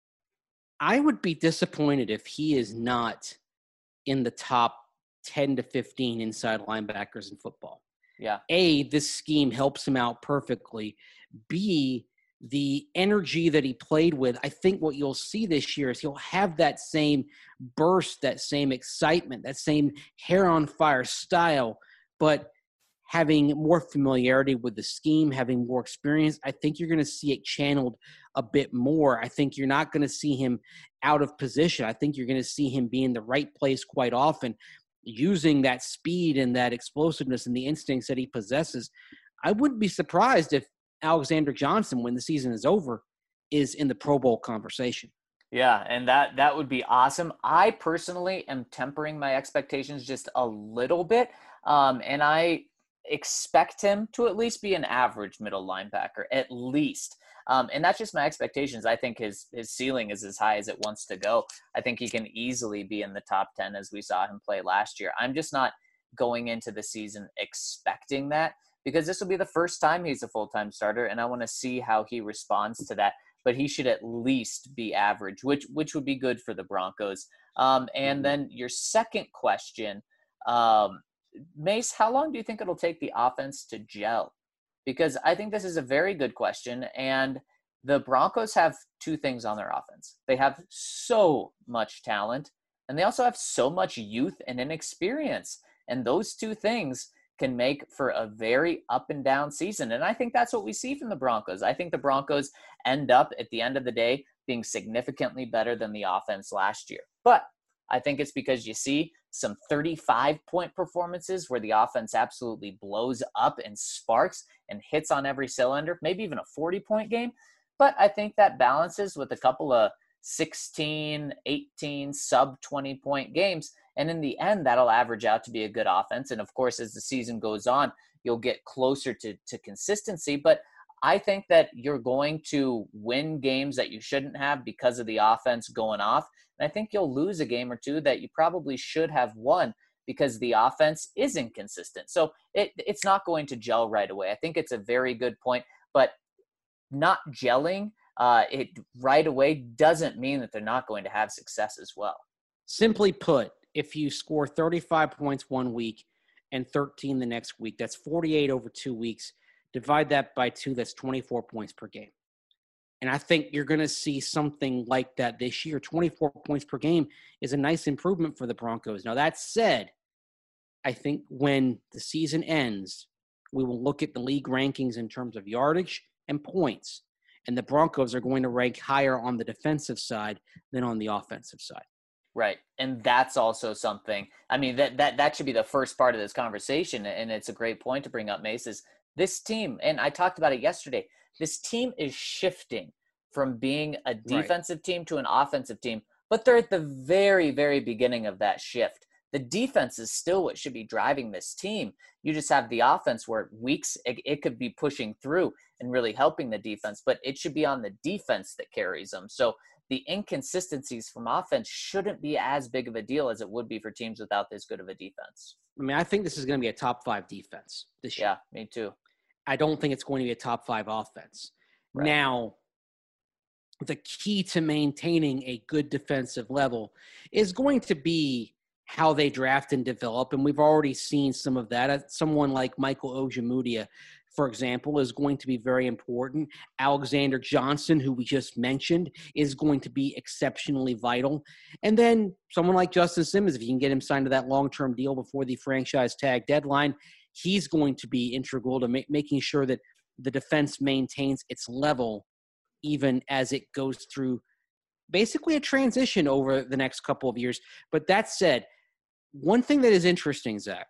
I would be disappointed if he is not in the top 10 to 15 inside linebackers in football. Yeah. A, this scheme helps him out perfectly. B, the energy that he played with, I think what you'll see this year is he'll have that same burst, that same excitement, that same hair on fire style, but having more familiarity with the scheme, having more experience, I think you're going to see it channeled a bit more. I think you're not going to see him out of position. I think you're going to see him be in the right place quite often, using that speed and that explosiveness and the instincts that he possesses. I wouldn't be surprised if Alexander Johnson, when the season is over, is in the Pro Bowl conversation. Yeah, and that would be awesome. I personally am tempering my expectations just a little bit, and I expect him to at least be an average middle linebacker, at least. And that's just my expectations. I think his ceiling is as high as it wants to go. I think he can easily be in the top 10 as we saw him play last year. I'm just not going into the season expecting that, because this will be the first time he's a full-time starter, and I want to see how he responds to that. But he should at least be average, which would be good for the Broncos. And then your second question, Mace, how long do you think it'll take the offense to gel? Because I think this is a very good question, and the Broncos have two things on their offense. They have so much talent, and they also have so much youth and inexperience. And those two things can make for a very up and down season. And I think that's what we see from the Broncos. I think the Broncos end up at the end of the day being significantly better than the offense last year. But I think it's because you see some 35-point performances where the offense absolutely blows up and sparks and hits on every cylinder, maybe even a 40-point game. But I think that balances with a couple of 16, 18, sub-20-point games. And in the end, that'll average out to be a good offense. And, of course, as the season goes on, you'll get closer to consistency. But I think that you're going to win games that you shouldn't have because of the offense going off. And I think you'll lose a game or two that you probably should have won because the offense is inconsistent. So it's not going to gel right away. I think it's a very good point. But not gelling it right away doesn't mean that they're not going to have success as well. Simply put, if you score 35 points one week and 13 the next week, that's 48 over 2 weeks. Divide that by 2, that's 24 points per game. And I think you're going to see something like that this year. 24 points per game is a nice improvement for the Broncos. Now, that said, I think when the season ends, we will look at the league rankings in terms of yardage and points. And the Broncos are going to rank higher on the defensive side than on the offensive side. Right. And that's also something, I mean, that should be the first part of this conversation. And it's a great point to bring up, Mace, is this team, and I talked about it yesterday, this team is shifting from being a defensive team to an offensive team, but they're at the very, very beginning of that shift. The defense is still what should be driving this team. You just have the offense where it could be pushing through and really helping the defense, but it should be on the defense that carries them. So the inconsistencies from offense shouldn't be as big of a deal as it would be for teams without this good of a defense. I mean, I think this is going to be a top 5 defense this year. Yeah, me too. I don't think it's going to be a top 5 offense. Right. Now, the key to maintaining a good defensive level is going to be how they draft and develop. And we've already seen some of that. Someone like Michael Ojemudia, for example, is going to be very important. Alexander Johnson, who we just mentioned, is going to be exceptionally vital. And then someone like Justin Simmons, if you can get him signed to that long-term deal before the franchise tag deadline, he's going to be integral to making sure that the defense maintains its level even as it goes through basically a transition over the next couple of years. But that said, one thing that is interesting, Zach,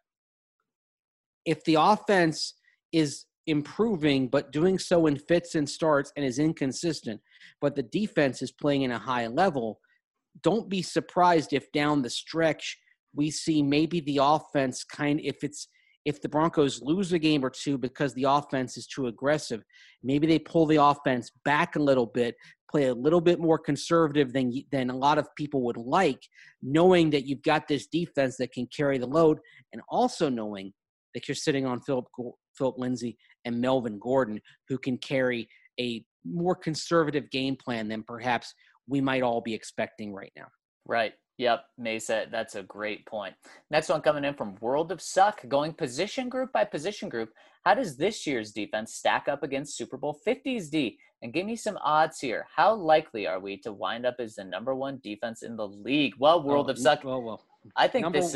if the offense is improving but doing so in fits and starts and is inconsistent, but the defense is playing in a high level, don't be surprised if down the stretch we see maybe the offense if the Broncos lose a game or two because the offense is too aggressive, maybe they pull the offense back a little bit, play a little bit more conservative than a lot of people would like, knowing that you've got this defense that can carry the load, and also knowing that you're sitting on Philip Lindsay and Melvin Gordon, who can carry a more conservative game plan than perhaps we might all be expecting right now. Right. Yep, Mesa, that's a great point. Next one coming in from World of Suck, going position group by position group. How does this year's defense stack up against Super Bowl 50's D? And give me some odds here. How likely are we to wind up as the number 1 defense in the league? Well, World of Suck, I think this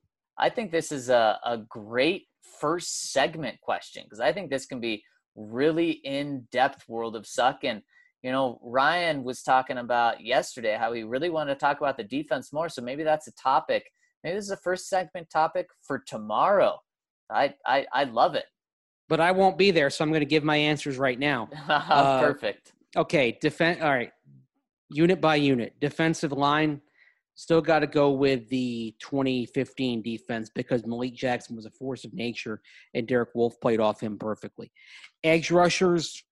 is a great first segment question, because I think this can be really in-depth, World of Suck. And you know, Ryan was talking about yesterday how he really wanted to talk about the defense more. So maybe that's a topic. Maybe this is a first segment topic for tomorrow. I love it. But I won't be there, so I'm going to give my answers right now. Perfect. Okay, all right. Unit by unit. Defensive line, still got to go with the 2015 defense because Malik Jackson was a force of nature and Derek Wolfe played off him perfectly. Edge rushers,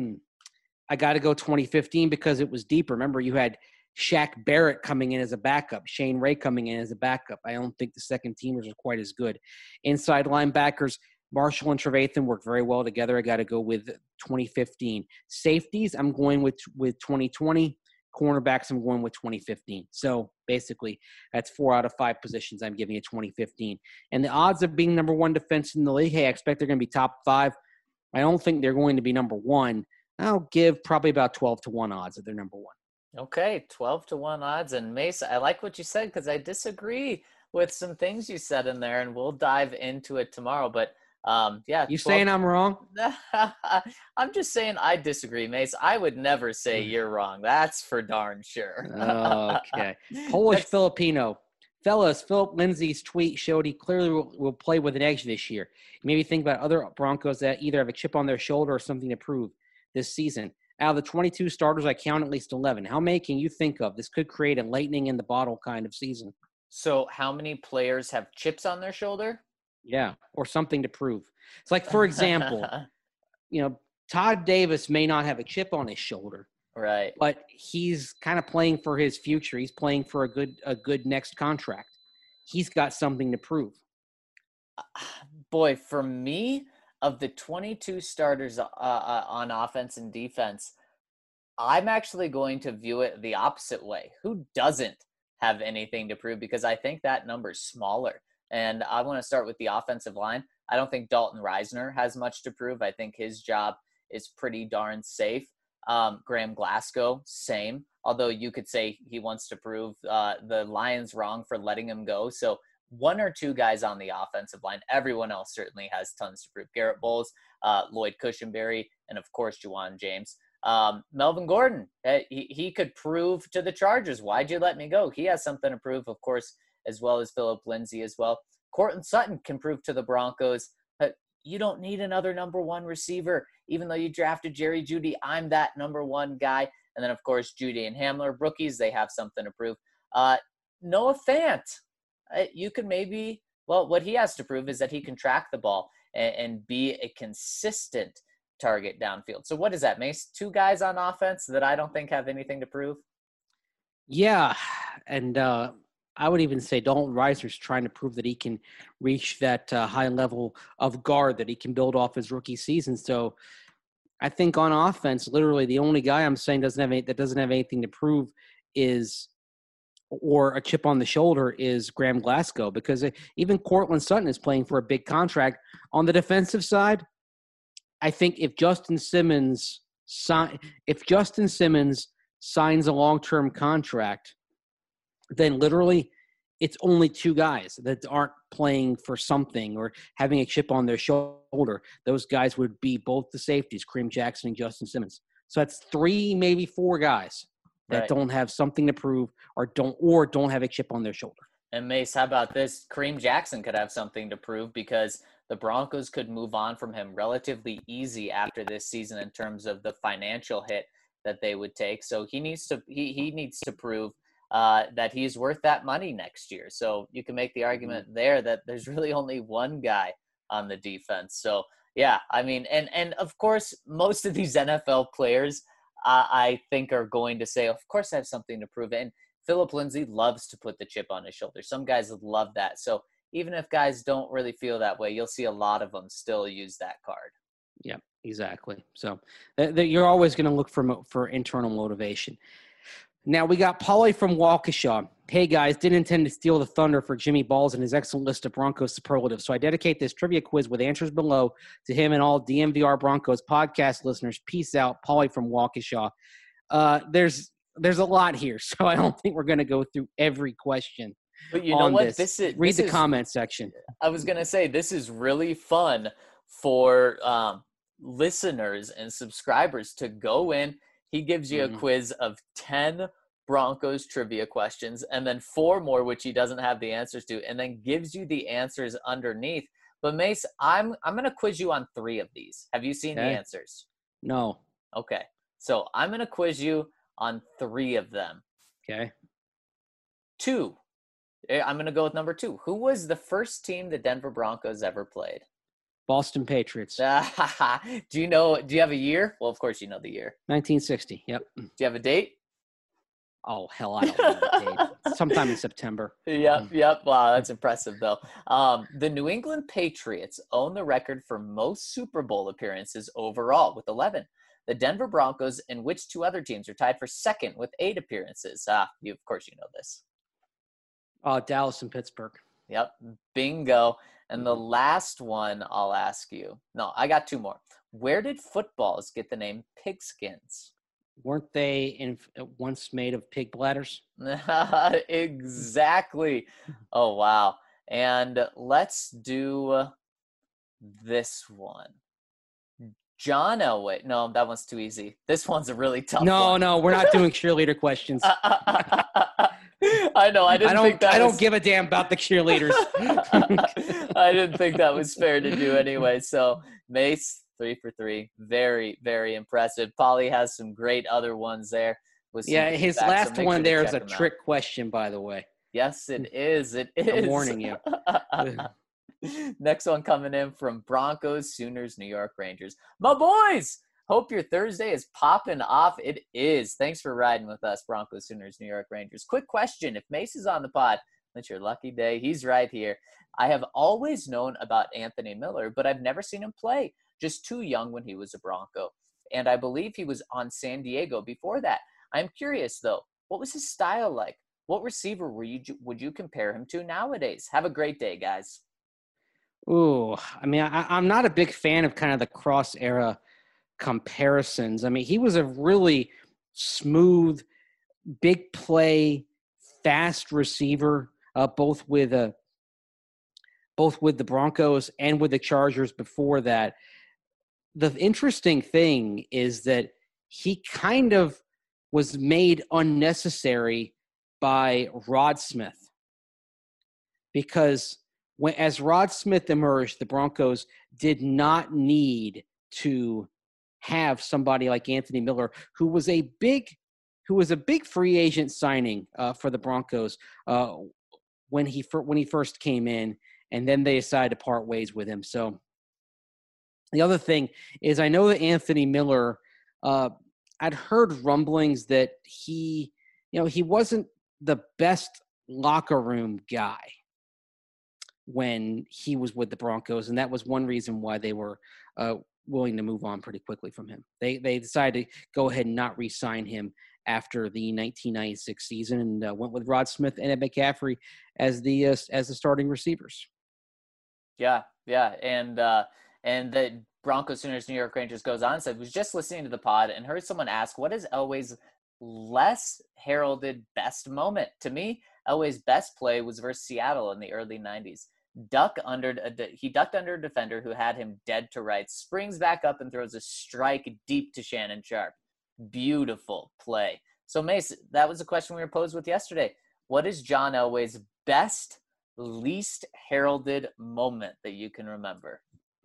I got to go 2015 because it was deeper. Remember, you had Shaq Barrett coming in as a backup, Shane Ray coming in as a backup. I don't think the second teamers are quite as good. Inside linebackers, Marshall and Trevathan worked very well together. I got to go with 2015. Safeties, I'm going with 2020. Cornerbacks, I'm going with 2015. So basically, that's 4 out of 5 positions I'm giving you 2015. And the odds of being number 1 defense in the league, hey, I expect they're going to be top 5. I don't think they're going to be number 1. I'll give probably about 12-1 odds that they're number 1. Okay, 12-1 odds. And Mesa, I like what you said because I disagree with some things you said in there, and we'll dive into it tomorrow. But yeah. You saying I'm wrong? I'm just saying I disagree, Mace. I would never say you're wrong. That's for darn sure. Okay. Polish Filipino. Fellas, Philip Lindsay's tweet showed he clearly will play with an edge this year. Maybe think about other Broncos that either have a chip on their shoulder or something to prove this season. Out of the 22 starters, I count at least 11. How many can you think of? This could create a lightning in the bottle kind of season. So how many players have chips on their shoulder? Yeah, or something to prove. It's like, for example, Todd Davis may not have a chip on his shoulder. Right. But he's kind of playing for his future. He's playing for a good next contract. He's got something to prove. Boy, for me, of the 22 starters on offense and defense, I'm actually going to view it the opposite way. Who doesn't have anything to prove? Because I think that number's smaller. And I want to start with the offensive line. I don't think Dalton Reisner has much to prove. I think his job is pretty darn safe. Graham Glasgow, same. Although you could say he wants to prove the Lions wrong for letting him go. So one or two guys on the offensive line. Everyone else certainly has tons to prove. Garrett Bowles, Lloyd Cushenberry, and of course, Juwan James. Melvin Gordon, he could prove to the Chargers, why'd you let me go? He has something to prove, of course, as well as Phillip Lindsay as well. Courtland Sutton can prove to the Broncos that you don't need another number one receiver. Even though you drafted Jerry Jeudy, I'm that number one guy. And then, of course, Jeudy and Hamler, rookies, they have something to prove. Noah Fant, you could maybe, well, what he has to prove is that he can track the ball and be a consistent target downfield. So what is that, Mace? Two guys on offense that I don't think have anything to prove? Yeah, and I would even say Dalton Reiser's trying to prove that he can reach that high level of guard that he can build off his rookie season. So I think on offense, literally the only guy I'm saying doesn't have anything to prove is, or a chip on the shoulder, is Graham Glasgow, because even Courtland Sutton is playing for a big contract. On the defensive side, I think if Justin Simmons signs a long-term contract, then literally it's only two guys that aren't playing for something or having a chip on their shoulder. Those guys would be both the safeties, Kareem Jackson and Justin Simmons. So that's three, maybe four guys that don't have something to prove or don't have a chip on their shoulder. And Mace, how about this? Kareem Jackson could have something to prove because the Broncos could move on from him relatively easy after this season in terms of the financial hit that they would take. So he needs to prove that he's worth that money next year. So you can make the argument there that there's really only one guy on the defense. So yeah, I mean, and of course, most of these NFL players, I think, are going to say, of course I have something to prove. And Phillip Lindsay loves to put the chip on his shoulder. Some guys love that. So even if guys don't really feel that way, you'll see a lot of them still use that card. Yeah, exactly. So you're always going to look for internal motivation. Now we got Paulie from Waukesha. Hey guys, didn't intend to steal the thunder for Jimmy Balls and his excellent list of Broncos superlatives. So I dedicate this trivia quiz with answers below to him and all DMVR Broncos podcast listeners. Peace out, Paulie from Waukesha. There's a lot here, so I don't think we're going to go through every question. But you know what? Read the comment section. I was going to say, this is really fun for listeners and subscribers to go in. He gives you a quiz of 10 Broncos trivia questions and then 4 more, which he doesn't have the answers to, and then gives you the answers underneath. But Mace, I'm going to quiz you on 3 of these. Have you seen the answers? No. Okay. So I'm going to quiz you on 3 of them. Okay. 2. I'm going to go with number 2. Who was the first team the Denver Broncos ever played? Boston Patriots. Do you have a year? Well, of course you know the year. 1960. Yep. Do you have a date? Oh, hell, I don't know the date. Sometime in September. Yep. Wow, that's impressive, though. The New England Patriots own the record for most Super Bowl appearances overall with 11. The Denver Broncos and which 2 other teams are tied for second with 8 appearances? Of course you know this. Dallas and Pittsburgh. Yep, bingo. And the last one I'll ask you. No, I got 2 more. Where did footballs get the name pigskins? Weren't they once made of pig bladders? Exactly. Oh, wow. And let's do this one. John Elway. No, that one's too easy. This one's a really tough one. No, we're not doing cheerleader questions. I know. I don't give a damn about the cheerleaders. I didn't think that was fair to do anyway. So Mace, 3 for 3. Very, very impressive. Paulie has some great other ones there. His last one there is a trick question, by the way. Yes, it is. It is. I'm warning you. Next one coming in from Broncos, Sooners, New York Rangers. My boys, hope your Thursday is popping off. It is. Thanks for riding with us, Broncos, Sooners, New York Rangers. Quick question. If Mace is on the pod, it's your lucky day. He's right here. I have always known about Anthony Miller, but I've never seen him play. Just too young when he was a Bronco. And I believe he was on San Diego before that. I'm curious, though. What was his style like? What receiver would you compare him to nowadays? Have a great day, guys. Ooh, I mean, I'm not a big fan of kind of the cross era comparisons. I mean, he was a really smooth, big play, fast receiver, both with the Broncos and with the Chargers before that. The interesting thing is that he kind of was made unnecessary by Rod Smith, because as Rod Smith emerged, the Broncos did not need to have somebody like Anthony Miller, who was a big free agent signing for the Broncos when he first came in, and then they decided to part ways with him. So the other thing is, I know that Anthony Miller, I'd heard rumblings that he wasn't the best locker room guy when he was with the Broncos, and that was one reason why they were willing to move on pretty quickly from him. They decided to go ahead and not re-sign him after the 1996 season, and went with Rod Smith and Ed McCaffrey as the starting receivers. Yeah, and the Broncos Sooners New York Rangers goes on and said, was just listening to the pod and heard someone ask, what is Elway's less heralded best moment? To me, Elway's best play was versus Seattle in the early 90s. He ducked under a defender who had him dead to rights, springs back up and throws a strike deep to Shannon Sharpe. Beautiful play. So, Mace, that was a question we were posed with yesterday. What is John Elway's best, least heralded moment that you can remember?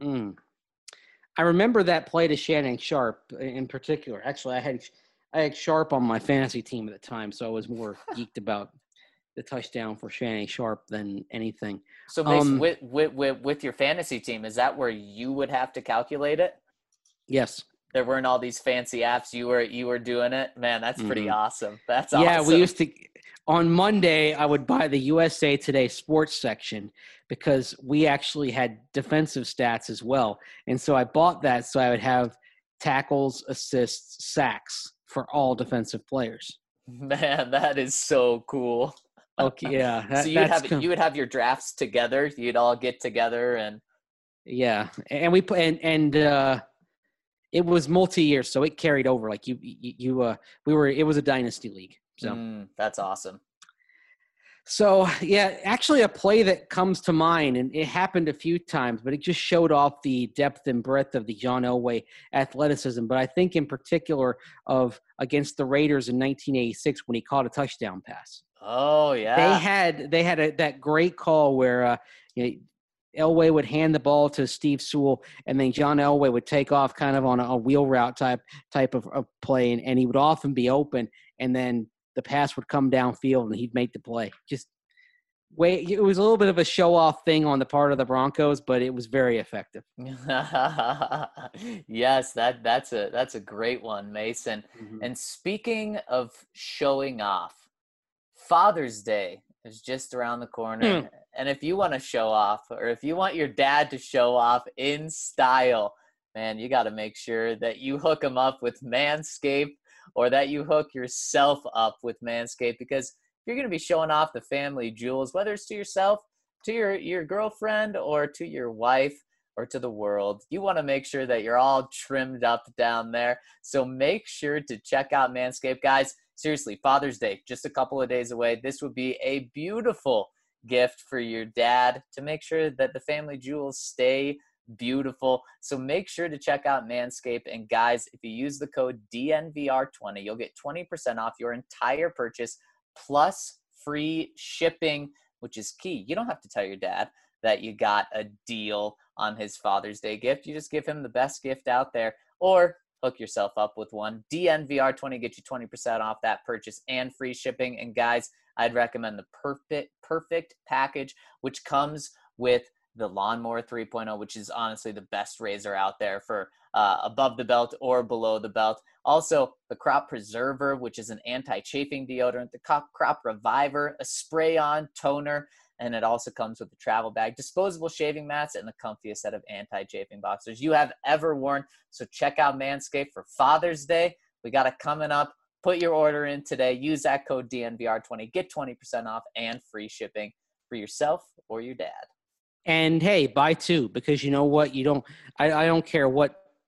I remember that play to Shannon Sharpe in particular. Actually, I had Sharpe on my fantasy team at the time, so I was more geeked about the touchdown for Shannon Sharpe than anything. So, Mace, with your fantasy team, is that where you would have to calculate it? Yes. There weren't all these fancy apps. You were doing it. Man, that's pretty awesome. That's awesome. Yeah, we used to. On Monday, I would buy the USA Today sports section because we actually had defensive stats as well, and so I bought that so I would have tackles, assists, sacks for all defensive players. Man, that is so cool. Okay, yeah. So you would have your drafts together. You'd all get together and. Yeah, and we put and. It was multi-year, so it carried over. Like it was a dynasty league. So that's awesome. So yeah, actually a play that comes to mind, and it happened a few times, but it just showed off the depth and breadth of the John Elway athleticism. But I think in particular of against the Raiders in 1986 when he caught a touchdown pass. Oh yeah. They had that great call where Elway would hand the ball to Steve Sewell, and then John Elway would take off kind of on a wheel route type of play, and he would often be open, and then the pass would come downfield, and he'd make the play. It was a little bit of a show-off thing on the part of the Broncos, but it was very effective. Yes, that's a great one, Mason. Mm-hmm. And speaking of showing off, Father's Day is just around the corner. And if you want to show off, or if you want your dad to show off in style, man, you got to make sure that you hook him up with Manscaped, or that you hook yourself up with Manscaped, because if you're going to be showing off the family jewels, whether it's to yourself, to your girlfriend, or to your wife, or to the world, you want to make sure that you're all trimmed up down there. So make sure to check out Manscaped, guys. Seriously, Father's Day, just a couple of days away. This would be a beautiful gift for your dad to make sure that the family jewels stay beautiful. So make sure to check out Manscaped. And guys, if you use the code DNVR20, you'll get 20% off your entire purchase plus free shipping, which is key. You don't have to tell your dad that you got a deal on his Father's Day gift. You just give him the best gift out there, or hook yourself up with one. DNVR20 get you 20% off that purchase and free shipping. And guys, I'd recommend the perfect package, which comes with the Lawnmower 3.0, which is honestly the best razor out there for above the belt or below the belt. Also, the Crop Preserver, which is an anti-chafing deodorant, the Crop Reviver, a spray-on toner, and it also comes with a travel bag, disposable shaving mats, and the comfiest set of anti-chafing boxers you have ever worn. So check out Manscaped for Father's Day. We got it coming up. Put your order in today. Use that code DNVR20. Get 20% off and free shipping for yourself or your dad. And hey, buy two, because you know what? I don't care what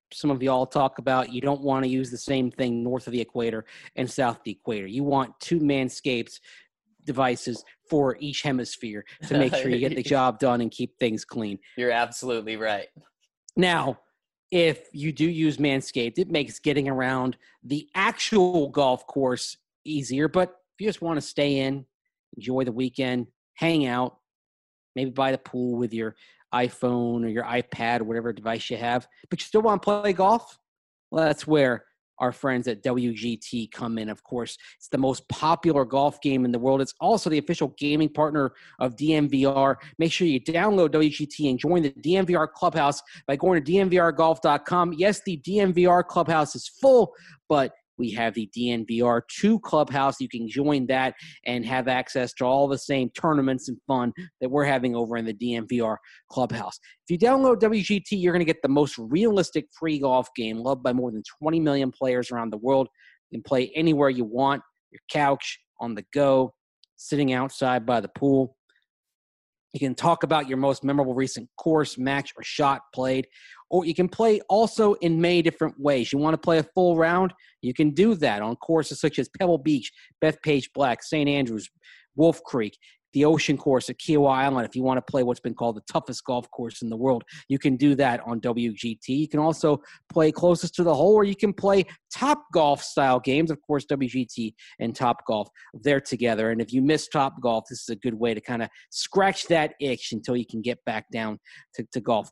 some of y'all talk about, you don't want to use the same thing north of the equator and south of the equator. You want two Manscaped devices for each hemisphere to make sure you get the job done and keep things clean. You're absolutely right. Now, if you do use Manscaped, it makes getting around the actual golf course easier. But if you just want to stay in, enjoy the weekend, hang out, maybe by the pool with your iPhone or your iPad or whatever device you have, but you still want to play golf, well, that's where our friends at WGT come in. Of course, it's the most popular golf game in the world. It's also the official gaming partner of DNVR. Make sure you download WGT and join the DNVR Clubhouse by going to DNVRgolf.com. Yes, the DNVR Clubhouse is full, but we have the DNVR 2 Clubhouse. You can join that and have access to all the same tournaments and fun that we're having over in the DNVR Clubhouse. If you download WGT, you're going to get the most realistic free golf game loved by more than 20 million players around the world. You can play anywhere you want, your couch, on the go, sitting outside by the pool. You can talk about your most memorable recent course, match, or shot played. Or you can play also in many different ways. You want to play a full round? You can do that on courses such as Pebble Beach, Bethpage Black, St. Andrews, Wolf Creek, the Ocean Course at Kiowa Island. If you want to play what's been called the toughest golf course in the world, you can do that on WGT. You can also play closest to the hole, or you can play Top Golf style games. Of course, WGT and Top Golf, they're together. And if you miss Top Golf, this is a good way to kind of scratch that itch until you can get back down to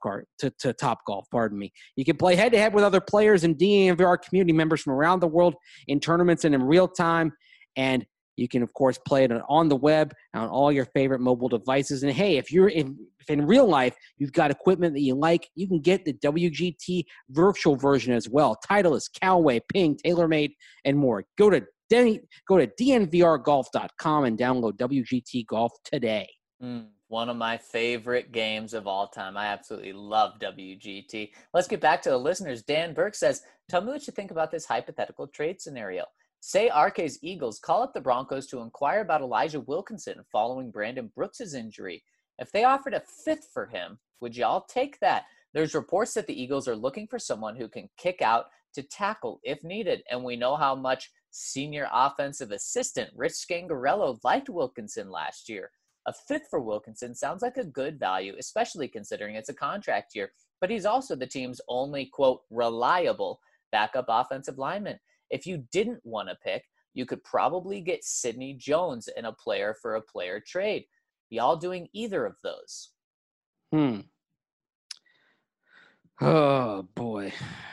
Top Golf. Pardon me. You can play head-to-head with other players and DNVR community members from around the world in tournaments and in real time. And you can, of course, play it on the web, on all your favorite mobile devices. And, hey, if in real life you've got equipment that you like, you can get the WGT virtual version as well. Titleist, Callaway, Ping, TaylorMade, and more. Go to DNVRgolf.com and download WGT Golf today. One of my favorite games of all time. I absolutely love WGT. Let's get back to the listeners. Dan Burke says, tell me what you think about this hypothetical trade scenario. Say RK's Eagles call up the Broncos to inquire about Elijah Wilkinson following Brandon Brooks' injury. If they offered a fifth for him, would y'all take that? There's reports that the Eagles are looking for someone who can kick out to tackle if needed, and we know how much senior offensive assistant Rich Scangarello liked Wilkinson last year. A fifth for Wilkinson sounds like a good value, especially considering it's a contract year, but he's also the team's only, quote, reliable backup offensive lineman. If you didn't want to pick, you could probably get Sidney Jones in a player for a player trade. Y'all doing either of those? Oh, boy.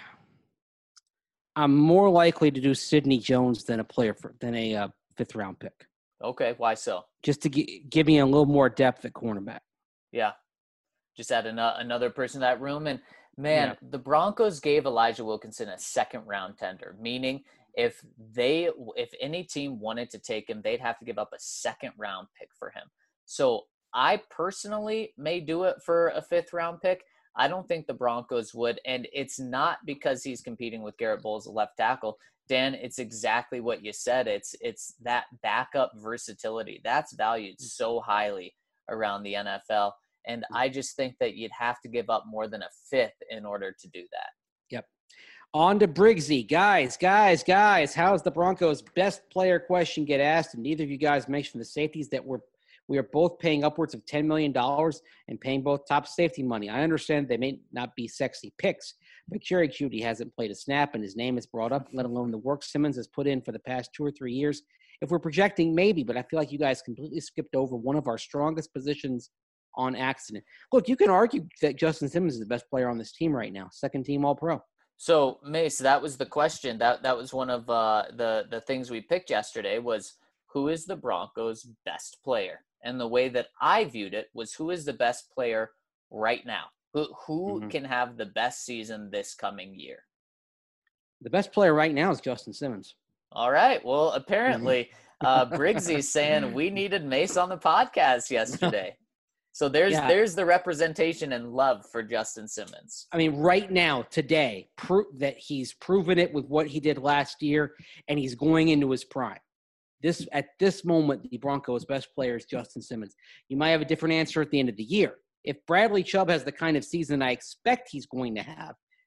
I'm more likely to do Sidney Jones than a fifth round pick. Okay, why so? Just to give me a little more depth at cornerback. Yeah, just add another person to that room. And man, The Broncos gave Elijah Wilkinson a second-round tender, meaning if any team wanted to take him, they'd have to give up a second-round pick for him. So I personally may do it for a fifth-round pick. I don't think the Broncos would, and it's not because he's competing with Garrett Bowles, a left tackle. Dan, it's exactly what you said. It's that backup versatility. That's valued so highly around the NFL. And I just think that you'd have to give up more than a fifth in order to do that. Yep. On to Briggsy. Guys, how's the Broncos' best player question get asked? And neither of you guys mentioned the safeties that we are both paying upwards of $10 million and paying both top safety money. I understand they may not be sexy picks, but Jerry Jeudy hasn't played a snap and his name is brought up, let alone the work Simmons has put in for the past 2 or 3 years. If we're projecting, maybe, but I feel like you guys completely skipped over one of our strongest positions on accident. Look, you can argue that Justin Simmons is the best player on this team right now, second team All-Pro. So, Mace, that was the question. That was one of the things we picked yesterday was who is the Broncos' best player? And the way that I viewed it was who is the best player right now? Who can have the best season this coming year? The best player right now is Justin Simmons. All right. Well, apparently, Briggsy's saying we needed Mace on the podcast yesterday. So there's the representation and love for Justin Simmons. I mean, right now, today, that he's proven it with what he did last year, and he's going into his prime. At this moment, the Broncos' best player is Justin Simmons. You might have a different answer at the end of the year. If Bradley Chubb has the kind of season I expect he's going to have,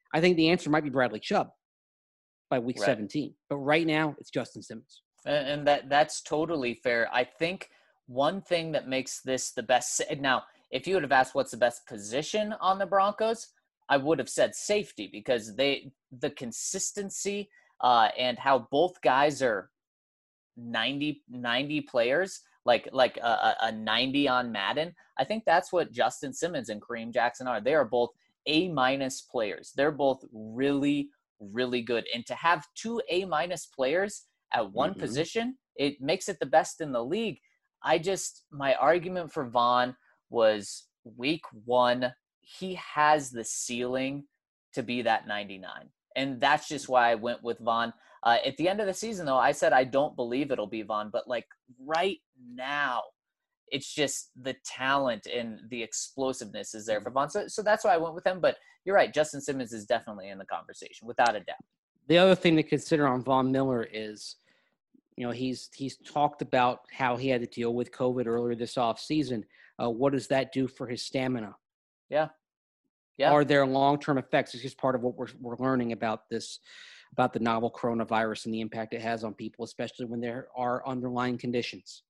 I think the answer might be Bradley Chubb by week Right. 17. But right now, it's Justin Simmons. And that's totally fair. I think one thing that makes this the best now, if you would have asked what's the best position on the Broncos, I would have said safety, because the consistency and how both guys are 90 players, like a 90 on Madden. I think that's what Justin Simmons and Kareem Jackson are. They are both A- players. They're both really, really good. And to have two A- players at one position, it makes it the best in the league. My argument for Vaughn was week 1, he has the ceiling to be that 99. And that's just why I went with Vaughn. At the end of the season, though, I said I don't believe it'll be Vaughn. But, like, right now, it's just the talent and the explosiveness is there for Vaughn. So that's why I went with him. But you're right. Justin Simmons is definitely in the conversation, without a doubt. The other thing to consider on Von Miller is, he's talked about how he had to deal with COVID earlier this offseason. What does that do for his stamina? Yeah. Are there long-term effects? It's just part of what we're learning about the novel coronavirus and the impact it has on people, especially when there are underlying conditions.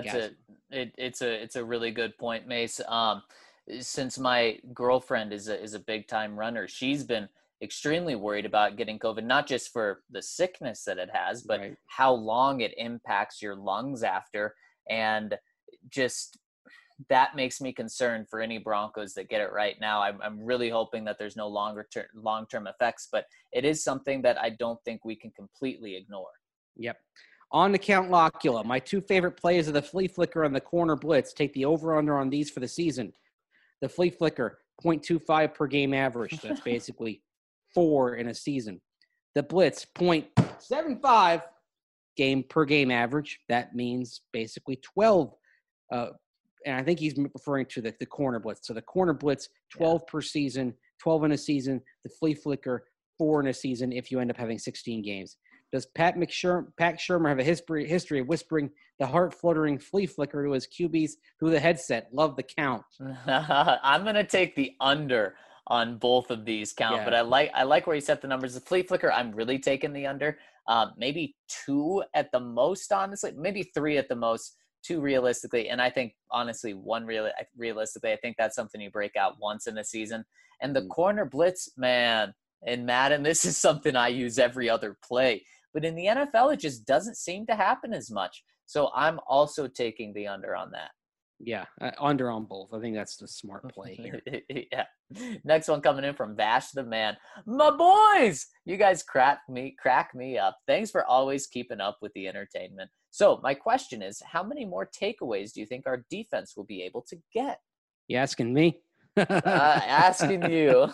It's a really good point, Mace. Since my girlfriend is a big time runner, she's been extremely worried about getting COVID, not just for the sickness that it has, but how long it impacts your lungs after. And just that makes me concerned for any Broncos that get it right now. I'm really hoping that there's no long-term effects, but it is something that I don't think we can completely ignore. Yep. On to Count Locula. My two favorite plays of the flea flicker and the corner blitz. Take the over-under on these for the season. The flea flicker, 0.25 per game average. That's basically 4 in a season. The blitz, 0.75 per game average. That means basically 12. And I think he's referring to the corner blitz. So the corner blitz, 12 per season, 12 in a season. The flea flicker, 4 in a season if you end up having 16 games. Does Pat Shurmur have a history of whispering the heart-fluttering flea flicker to his QBs through the headset? Love the count. I'm going to take the under on both of these count, but I like where you set the numbers. The flea flicker, I'm really taking the under. Maybe 2 at the most, honestly. Maybe 3 at the most. 2 realistically, and I think honestly 1 realistically. I think that's something you break out once in a season. And the corner blitz, man, in Madden, this is something I use every other play. But in the NFL, it just doesn't seem to happen as much. So I'm also taking the under on that. Yeah, under on both. I think that's the smart play here. Yeah. Next one coming in from Vash the Man. My boys, you guys crack me up. Thanks for always keeping up with the entertainment. So my question is, how many more takeaways do you think our defense will be able to get? You asking me? Asking you.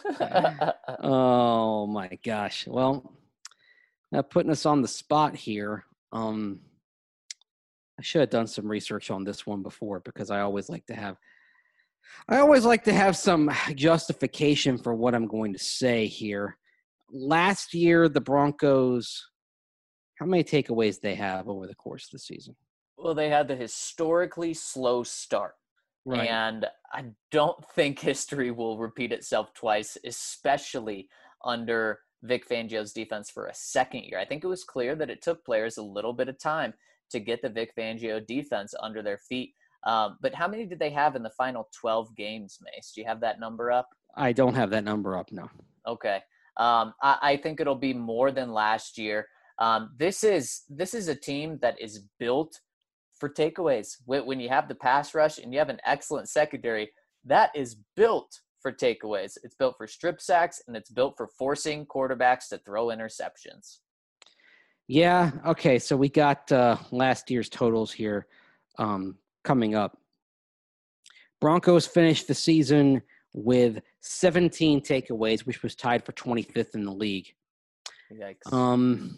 Oh my gosh. Well, putting us on the spot here. I should have done some research on this one before, because I always like to have some justification for what I'm going to say here. Last year, the Broncos, how many takeaways they have over the course of the season? Well, they had the historically slow start. Right. And I don't think history will repeat itself twice, especially under Vic Fangio's defense for a second year. I think it was clear that it took players a little bit of time to get the Vic Fangio defense under their feet. But how many did they have in the final 12 games, Mace? Do you have that number up? I don't have that number up, no. Okay. I think it'll be more than last year. This is a team that is built for takeaways. When you have the pass rush and you have an excellent secondary, that is built for takeaways. It's built for strip sacks, and it's built for forcing quarterbacks to throw interceptions. Yeah, okay, so we got last year's totals here coming up. Broncos finished the season with 17 takeaways, which was tied for 25th in the league. Yikes.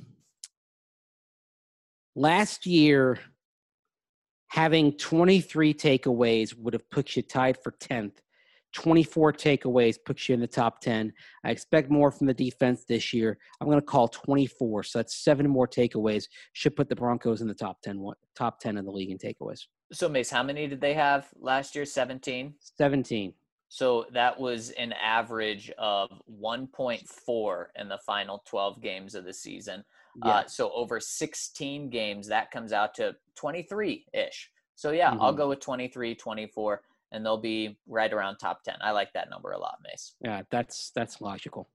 Last year, having 23 takeaways would have put you tied for 10th. 24 takeaways puts you in the top 10. I expect more from the defense this year. I'm going to call 24. So that's 7 more takeaways. Should put the Broncos in the top 10 of the league in takeaways. So, Mace, how many did they have last year? 17? 17. So that was an average of 1.4 in the final 12 games of the season. Yeah. So over 16 games, that comes out to 23-ish. So yeah, I'll go with 23, 24, and they'll be right around top 10. I like that number a lot, Mace. Yeah, that's logical.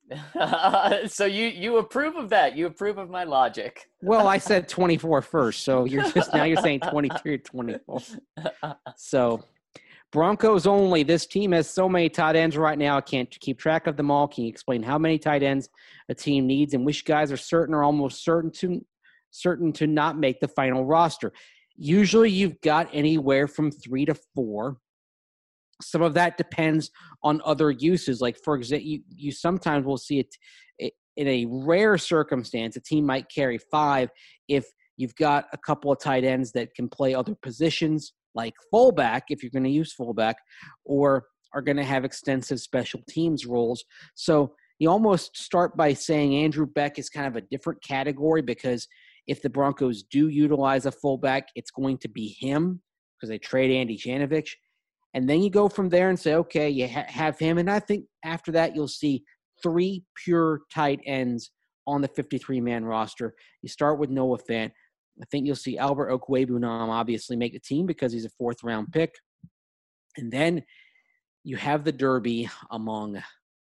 So you approve of that? You approve of my logic? Well, I said 24 first, so you're saying 23 or 24. So Broncos only. This team has so many tight ends right now. I can't keep track of them all. Can you explain how many tight ends a team needs and which guys are certain or almost certain to not make the final roster? Usually you've got anywhere from 3 to 4. Some of that depends on other uses. Like, for example, you sometimes will see it in a rare circumstance. A team might carry 5 if you've got a couple of tight ends that can play other positions, like fullback, if you're going to use fullback, or are going to have extensive special teams roles. So you almost start by saying Andrew Beck is kind of a different category, because if the Broncos do utilize a fullback, it's going to be him because they trade Andy Janovich. And then you go from there and say, okay, you have him. And I think after that, you'll see 3 pure tight ends on the 53-man roster. You start with Noah Fant. I think you'll see Albert Okwuegbunam obviously make the team because he's a 4th-round pick. And then you have the derby among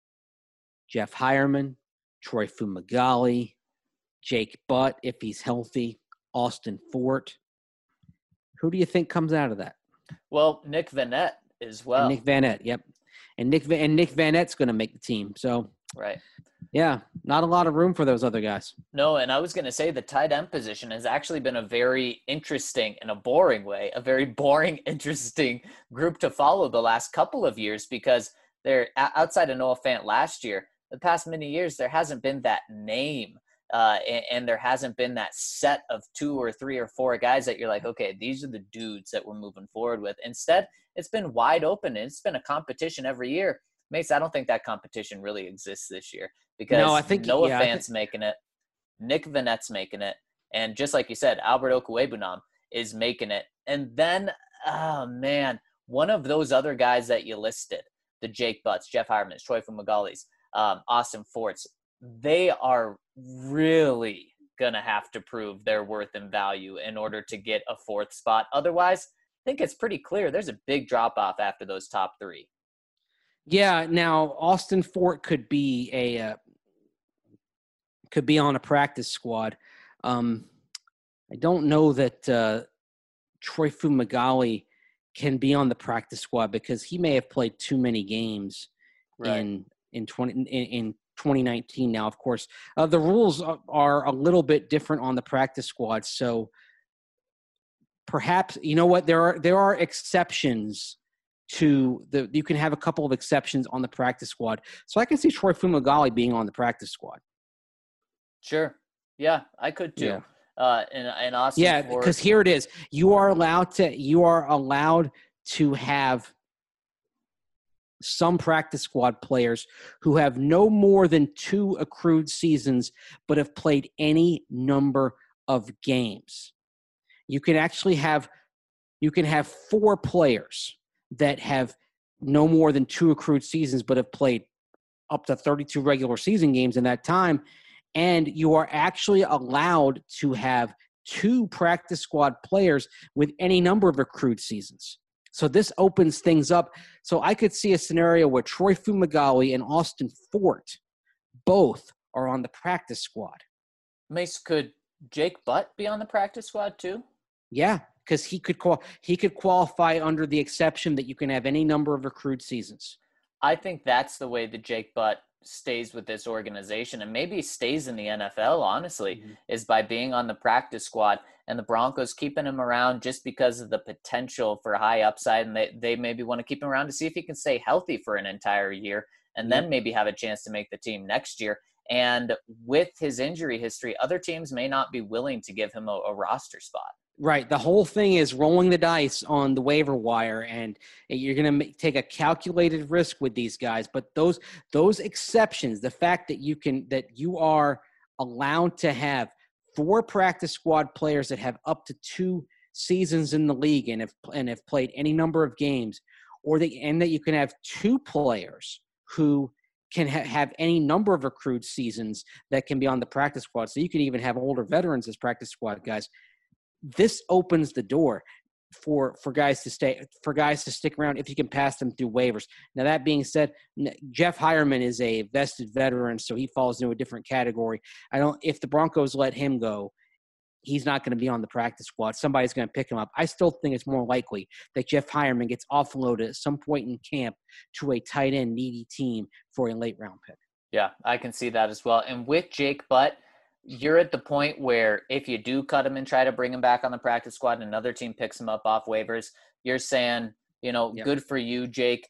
Jeff Hireman, Troy Fumagalli, Jake Butt, if he's healthy, Austin Fort. Who do you think comes out of that? Well, Nick Vannett as well. And Nick Vannett, yep. And Nick Vannett's going to make the team. So, right. Yeah, not a lot of room for those other guys. No, and I was going to say the tight end position has actually been a very interesting, in a boring way, a very boring, interesting group to follow the last couple of years, because they're outside of Noah Fant last year. The past many years, there hasn't been that name. And there hasn't been that set of 2 or 3 or 4 guys that you're like, okay, these are the dudes that we're moving forward with. Instead, it's been wide open, and it's been a competition every year. Mace, I don't think that competition really exists this year, because no, I think Noah Fant's making it, Nick Vannett's making it, and just like you said, Albert Okwuegbunam is making it. And then, oh man, one of those other guys that you listed, the Jake Butts, Jeff Hireman's, Troy Fumagalli's, Austin Fort's, they are really going to have to prove their worth and value in order to get a 4th spot. Otherwise, I think it's pretty clear there's a big drop-off after those top 3. Yeah, now Austin Fort could be on a practice squad. I don't know that Troy Fumagalli can be on the practice squad because he may have played too many games in 2019. Now, of course, the rules are a little bit different on the practice squad. So perhaps, you know what, there are exceptions to you can have a couple of exceptions on the practice squad. So I can see Troy Fumagalli being on the practice squad. Sure. Yeah, I could too. Yeah. And Austin yeah, Fort, because here it is. You are allowed to have some practice squad players who have no more than 2 accrued seasons but have played any number of games. You can have 4 players that have no more than 2 accrued seasons but have played up to 32 regular season games in that time, and you are actually allowed to have 2 practice squad players with any number of accrued seasons. So this opens things up. So I could see a scenario where Troy Fumagalli and Austin Fort both are on the practice squad. Mace, could Jake Butt be on the practice squad too? Yeah, because he could qualify under the exception that you can have any number of accrued seasons. I think that's the way that Jake Butt stays with this organization, and maybe stays in the NFL, honestly, is by being on the practice squad, and the Broncos keeping him around just because of the potential for high upside, and they maybe want to keep him around to see if he can stay healthy for an entire year, and then maybe have a chance to make the team next year. And with his injury history, other teams may not be willing to give him a roster spot. Right. The whole thing is rolling the dice on the waiver wire, and you're going to take a calculated risk with these guys. But those exceptions, the fact that you are allowed to have 4 practice squad players that have up to 2 seasons in the league and have played any number of games, and that you can have two players who can have any number of accrued seasons that can be on the practice squad. So you can even have older veterans as practice squad guys. This opens the door for guys to stick around if you can pass them through waivers. Now, that being said, Jeff Hireman is a vested veteran, so he falls into a different category. If the Broncos let him go, he's not going to be on the practice squad. Somebody's going to pick him up. I still think it's more likely that Jeff Hireman gets offloaded at some point in camp to a tight end needy team for a late round pick. Yeah, I can see that as well. And with Jake Butt, you're at the point where if you do cut him and try to bring him back on the practice squad and another team picks him up off waivers, you're saying, good for you, Jake.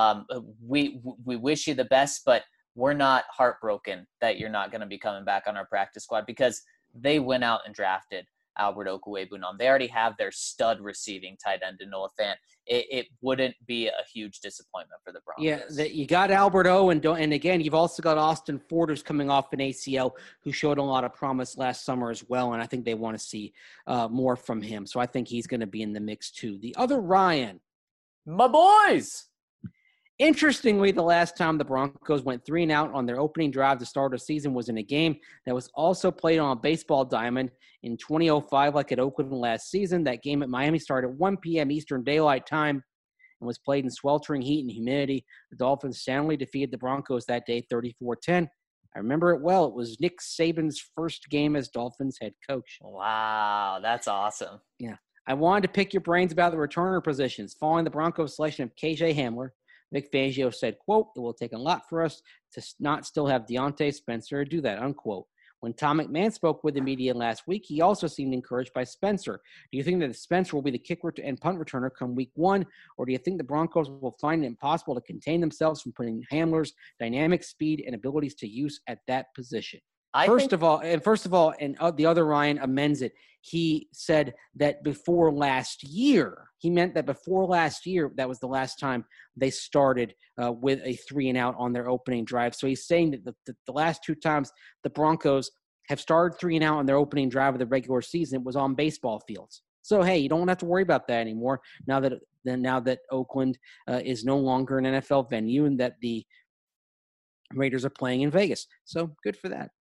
We wish you the best, but we're not heartbroken that you're not going to be coming back on our practice squad, because they went out and drafted Albert Okwuegbunam. They already have their stud receiving tight end in Noah Fant. It wouldn't be a huge disappointment for the Broncos. Yeah, you got Albert O, and again, you've also got Austin Ford, who's coming off an ACL, who showed a lot of promise last summer as well, and I think they want to see more from him. So I think he's going to be in the mix too. The other Ryan. My boys! Interestingly, the last time the Broncos went 3-and-out on their opening drive to start a season was in a game that was also played on a baseball diamond in 2005, like at Oakland last season. That game at Miami started at 1 p.m. Eastern Daylight Time and was played in sweltering heat and humidity. The Dolphins soundly defeated the Broncos that day 34-10. I remember it well. It was Nick Saban's first game as Dolphins head coach. Wow, that's awesome. Yeah. I wanted to pick your brains about the returner positions. Following the Broncos' selection of KJ Hamler, Vic Fangio said, quote, "It will take a lot for us to not still have Deontay Spencer do that," unquote. When Tom McMahon spoke with the media last week, he also seemed encouraged by Spencer. Do you think that Spencer will be the kick and punt returner come week one, or do you think the Broncos will find it impossible to contain themselves from putting Hamler's dynamic speed and abilities to use at that position? First of all, the other Ryan amends it. He said that before last year, he meant that before last year, that was the last time they started with a 3-and-out on their opening drive. So he's saying that the last two times the Broncos have started 3-and-out on their opening drive of the regular season, it was on baseball fields. So, hey, you don't have to worry about that anymore now that Oakland is no longer an NFL venue and that the Raiders are playing in Vegas. So good for that.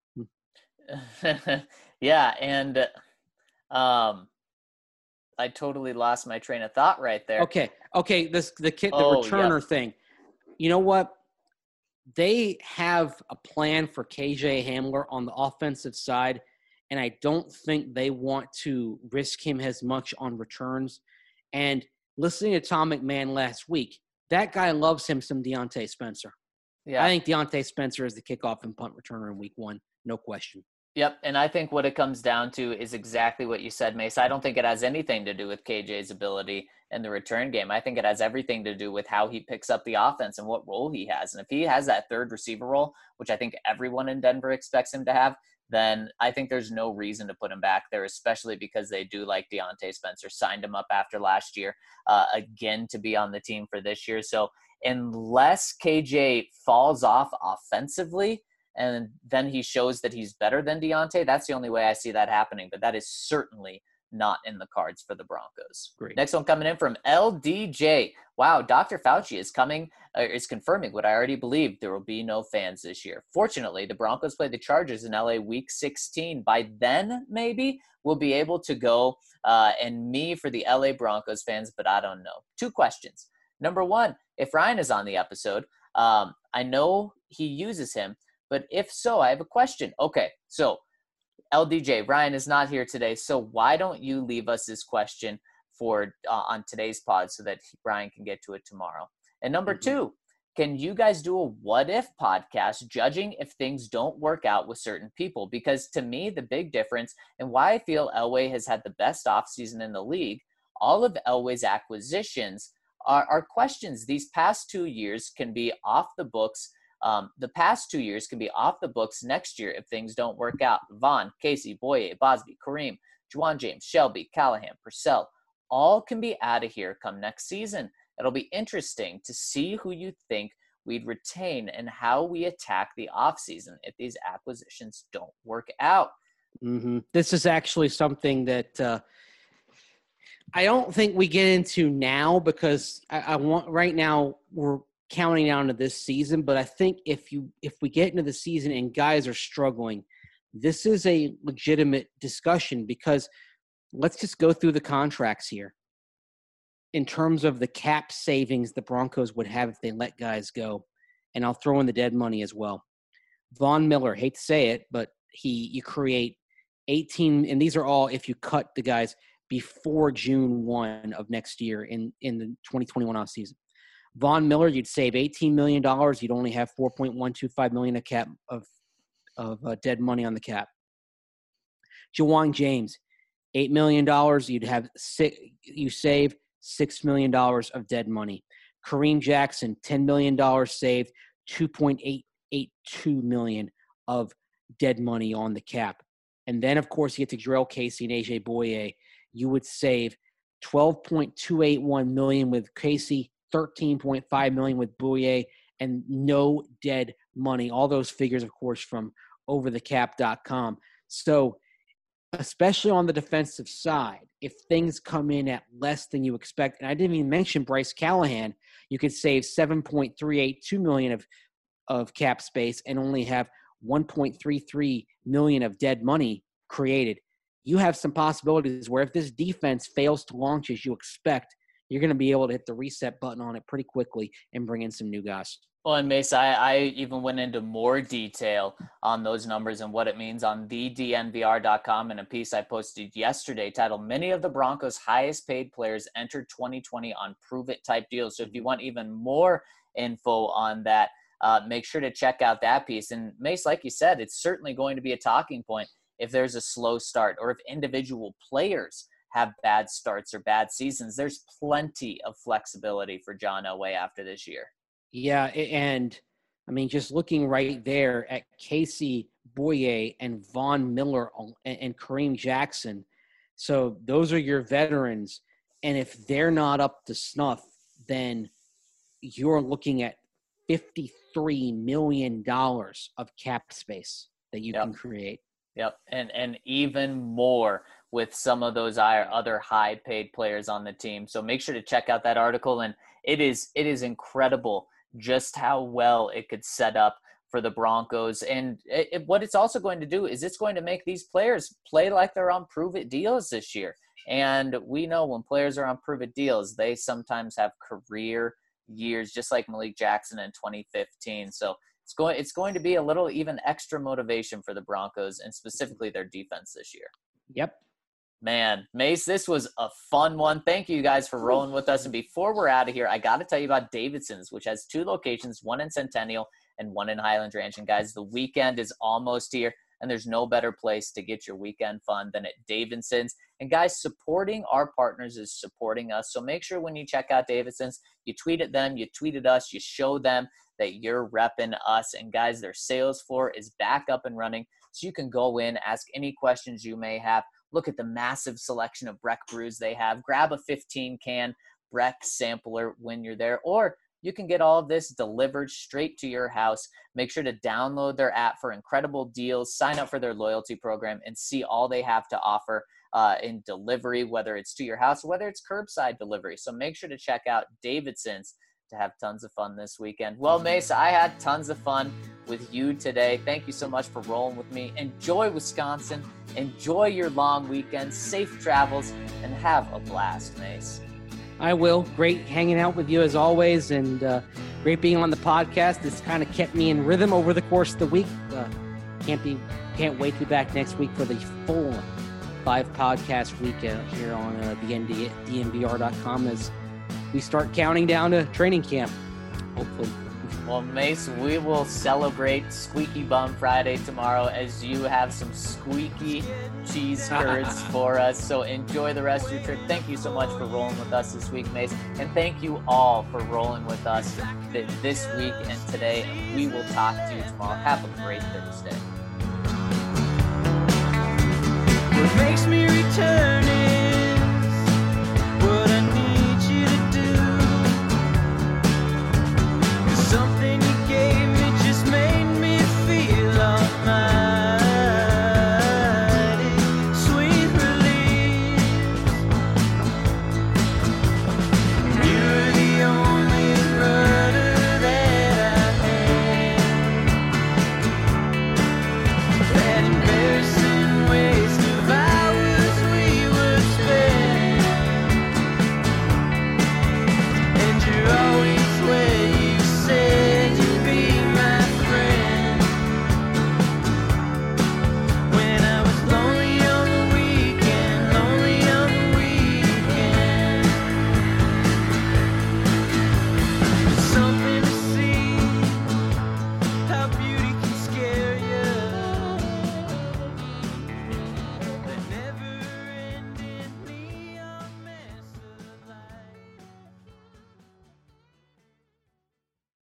Yeah, and I totally lost my train of thought right there. Okay. The returner thing. You know what? They have a plan for KJ Hamler on the offensive side, and I don't think they want to risk him as much on returns. And listening to Tom McMahon last week, that guy loves him some Deontay Spencer. Yeah, I think Deontay Spencer is the kickoff and punt returner in week one, no question. Yep, and I think what it comes down to is exactly what you said, Mace. I don't think it has anything to do with KJ's ability in the return game. I think it has everything to do with how he picks up the offense and what role he has. And if he has that third receiver role, which I think everyone in Denver expects him to have, then I think there's no reason to put him back there, especially because they do like Deontay Spencer, signed him up after last year, again, to be on the team for this year. So unless KJ falls off offensively, and then he shows that he's better than Deontay, that's the only way I see that happening. But that is certainly not in the cards for the Broncos. Great. Next one coming in from LDJ. Wow, Dr. Fauci is confirming what I already believed. There will be no fans this year. Fortunately, the Broncos play the Chargers in LA week 16. By then, maybe we'll be able to go and me for the LA Broncos fans, but I don't know. 2 questions. Number 1, if Ryan is on the episode, I know he uses him. But if so, I have a question. Okay, so LDJ, Ryan is not here today, so why don't you leave us this question for on today's pod so that Ryan can get to it tomorrow? And number 2, can you guys do a what-if podcast judging if things don't work out with certain people? Because to me, the big difference and why I feel Elway has had the best offseason in the league, all of Elway's acquisitions are questions. These past 2 years can be off the books. The past 2 years can be off the books next year if things don't work out. Vaughn, Casey, Boye, Bosby, Kareem, Juwan James, Shelby, Callahan, Purcell, all can be out of here come next season. It'll be interesting to see who you think we'd retain and how we attack the offseason if these acquisitions don't work out. Mm-hmm. This is actually something that I don't think we get into now because I want right now we're counting down to this season. But I think if we get into the season and guys are struggling, this is a legitimate discussion because let's just go through the contracts here. In terms of the cap savings the Broncos would have if they let guys go, and I'll throw in the dead money as well. Von Miller, hate to say it, but you create 18, and these are all if you cut the guys before June 1 of next year in the 2021 offseason. Von Miller, you'd save $18 million. You'd only have $4.125 million of cap of dead money on the cap. Ja'Wuan James, $8 million. You save $6 million of dead money. Kareem Jackson, $10 million saved, $2.882 million of dead money on the cap. And then, of course, you get to Jarrell Casey and AJ Bouye. You would save $12.281 million with Casey, $13.5 million with Bouye, and no dead money. All those figures, of course, from overthecap.com. So, especially on the defensive side, if things come in at less than you expect, and I didn't even mention Bryce Callahan, you could save $7.382 million of cap space and only have $1.33 million of dead money created. You have some possibilities where if this defense fails to launch as you expect, you're going to be able to hit the reset button on it pretty quickly and bring in some new guys. Well, and Mace, I even went into more detail on those numbers and what it means on thednvr.com in a piece I posted yesterday titled "Many of the Broncos' highest paid players entered 2020 on prove-it type deals." So if you want even more info on that, make sure to check out that piece. And Mace, like you said, it's certainly going to be a talking point if there's a slow start or if individual players have bad starts or bad seasons. There's plenty of flexibility for John Elway after this year. Yeah, and I mean, just looking right there at Casey Bouye and Von Miller and Kareem Jackson. So those are your veterans. And if they're not up to snuff, then you're looking at $53 million of cap space that you can create. Yep, and even more with some of those other high-paid players on the team. So make sure to check out that article. And it is incredible just how well it could set up for the Broncos. And what it's also going to do is it's going to make these players play like they're on prove-it deals this year. And we know when players are on prove-it deals, they sometimes have career years, just like Malik Jackson in 2015. So it's going to be a little even extra motivation for the Broncos and specifically their defense this year. Yep. Man, Mace, this was a fun one. Thank you guys for rolling with us. And before we're out of here, I got to tell you about Davidson's, which has 2 locations, one in Centennial and one in Highland Ranch. And guys, the weekend is almost here, and there's no better place to get your weekend fun than at Davidson's. And guys, supporting our partners is supporting us. So make sure when you check out Davidson's, you tweet at them, you tweet at us, you show them that you're repping us. And guys, their sales floor is back up and running. So you can go in, ask any questions you may have. Look at the massive selection of Breck brews they have. Grab a 15-can Breck sampler when you're there, or you can get all of this delivered straight to your house. Make sure to download their app for incredible deals, sign up for their loyalty program, and see all they have to offer in delivery, whether it's to your house or whether it's curbside delivery. So make sure to check out Davidson's to have tons of fun this weekend. Well, Mace, I had tons of fun with you today. Thank you so much for rolling with me. Enjoy Wisconsin. Enjoy your long weekend. Safe travels, and have a blast, Mace. I will. Great hanging out with you as always, and great being on the podcast. This kind of kept me in rhythm over the course of the week. Can't wait to be back next week for the full 5-podcast week here on DNVR.com as we start counting down to training camp, hopefully. Well, Mace, we will celebrate Squeaky Bum Friday tomorrow as you have some squeaky cheese curds for us. So enjoy the rest of your trip. Thank you so much for rolling with us this week, Mace. And thank you all for rolling with us this week and today. We will talk to you tomorrow. Have a great Thursday.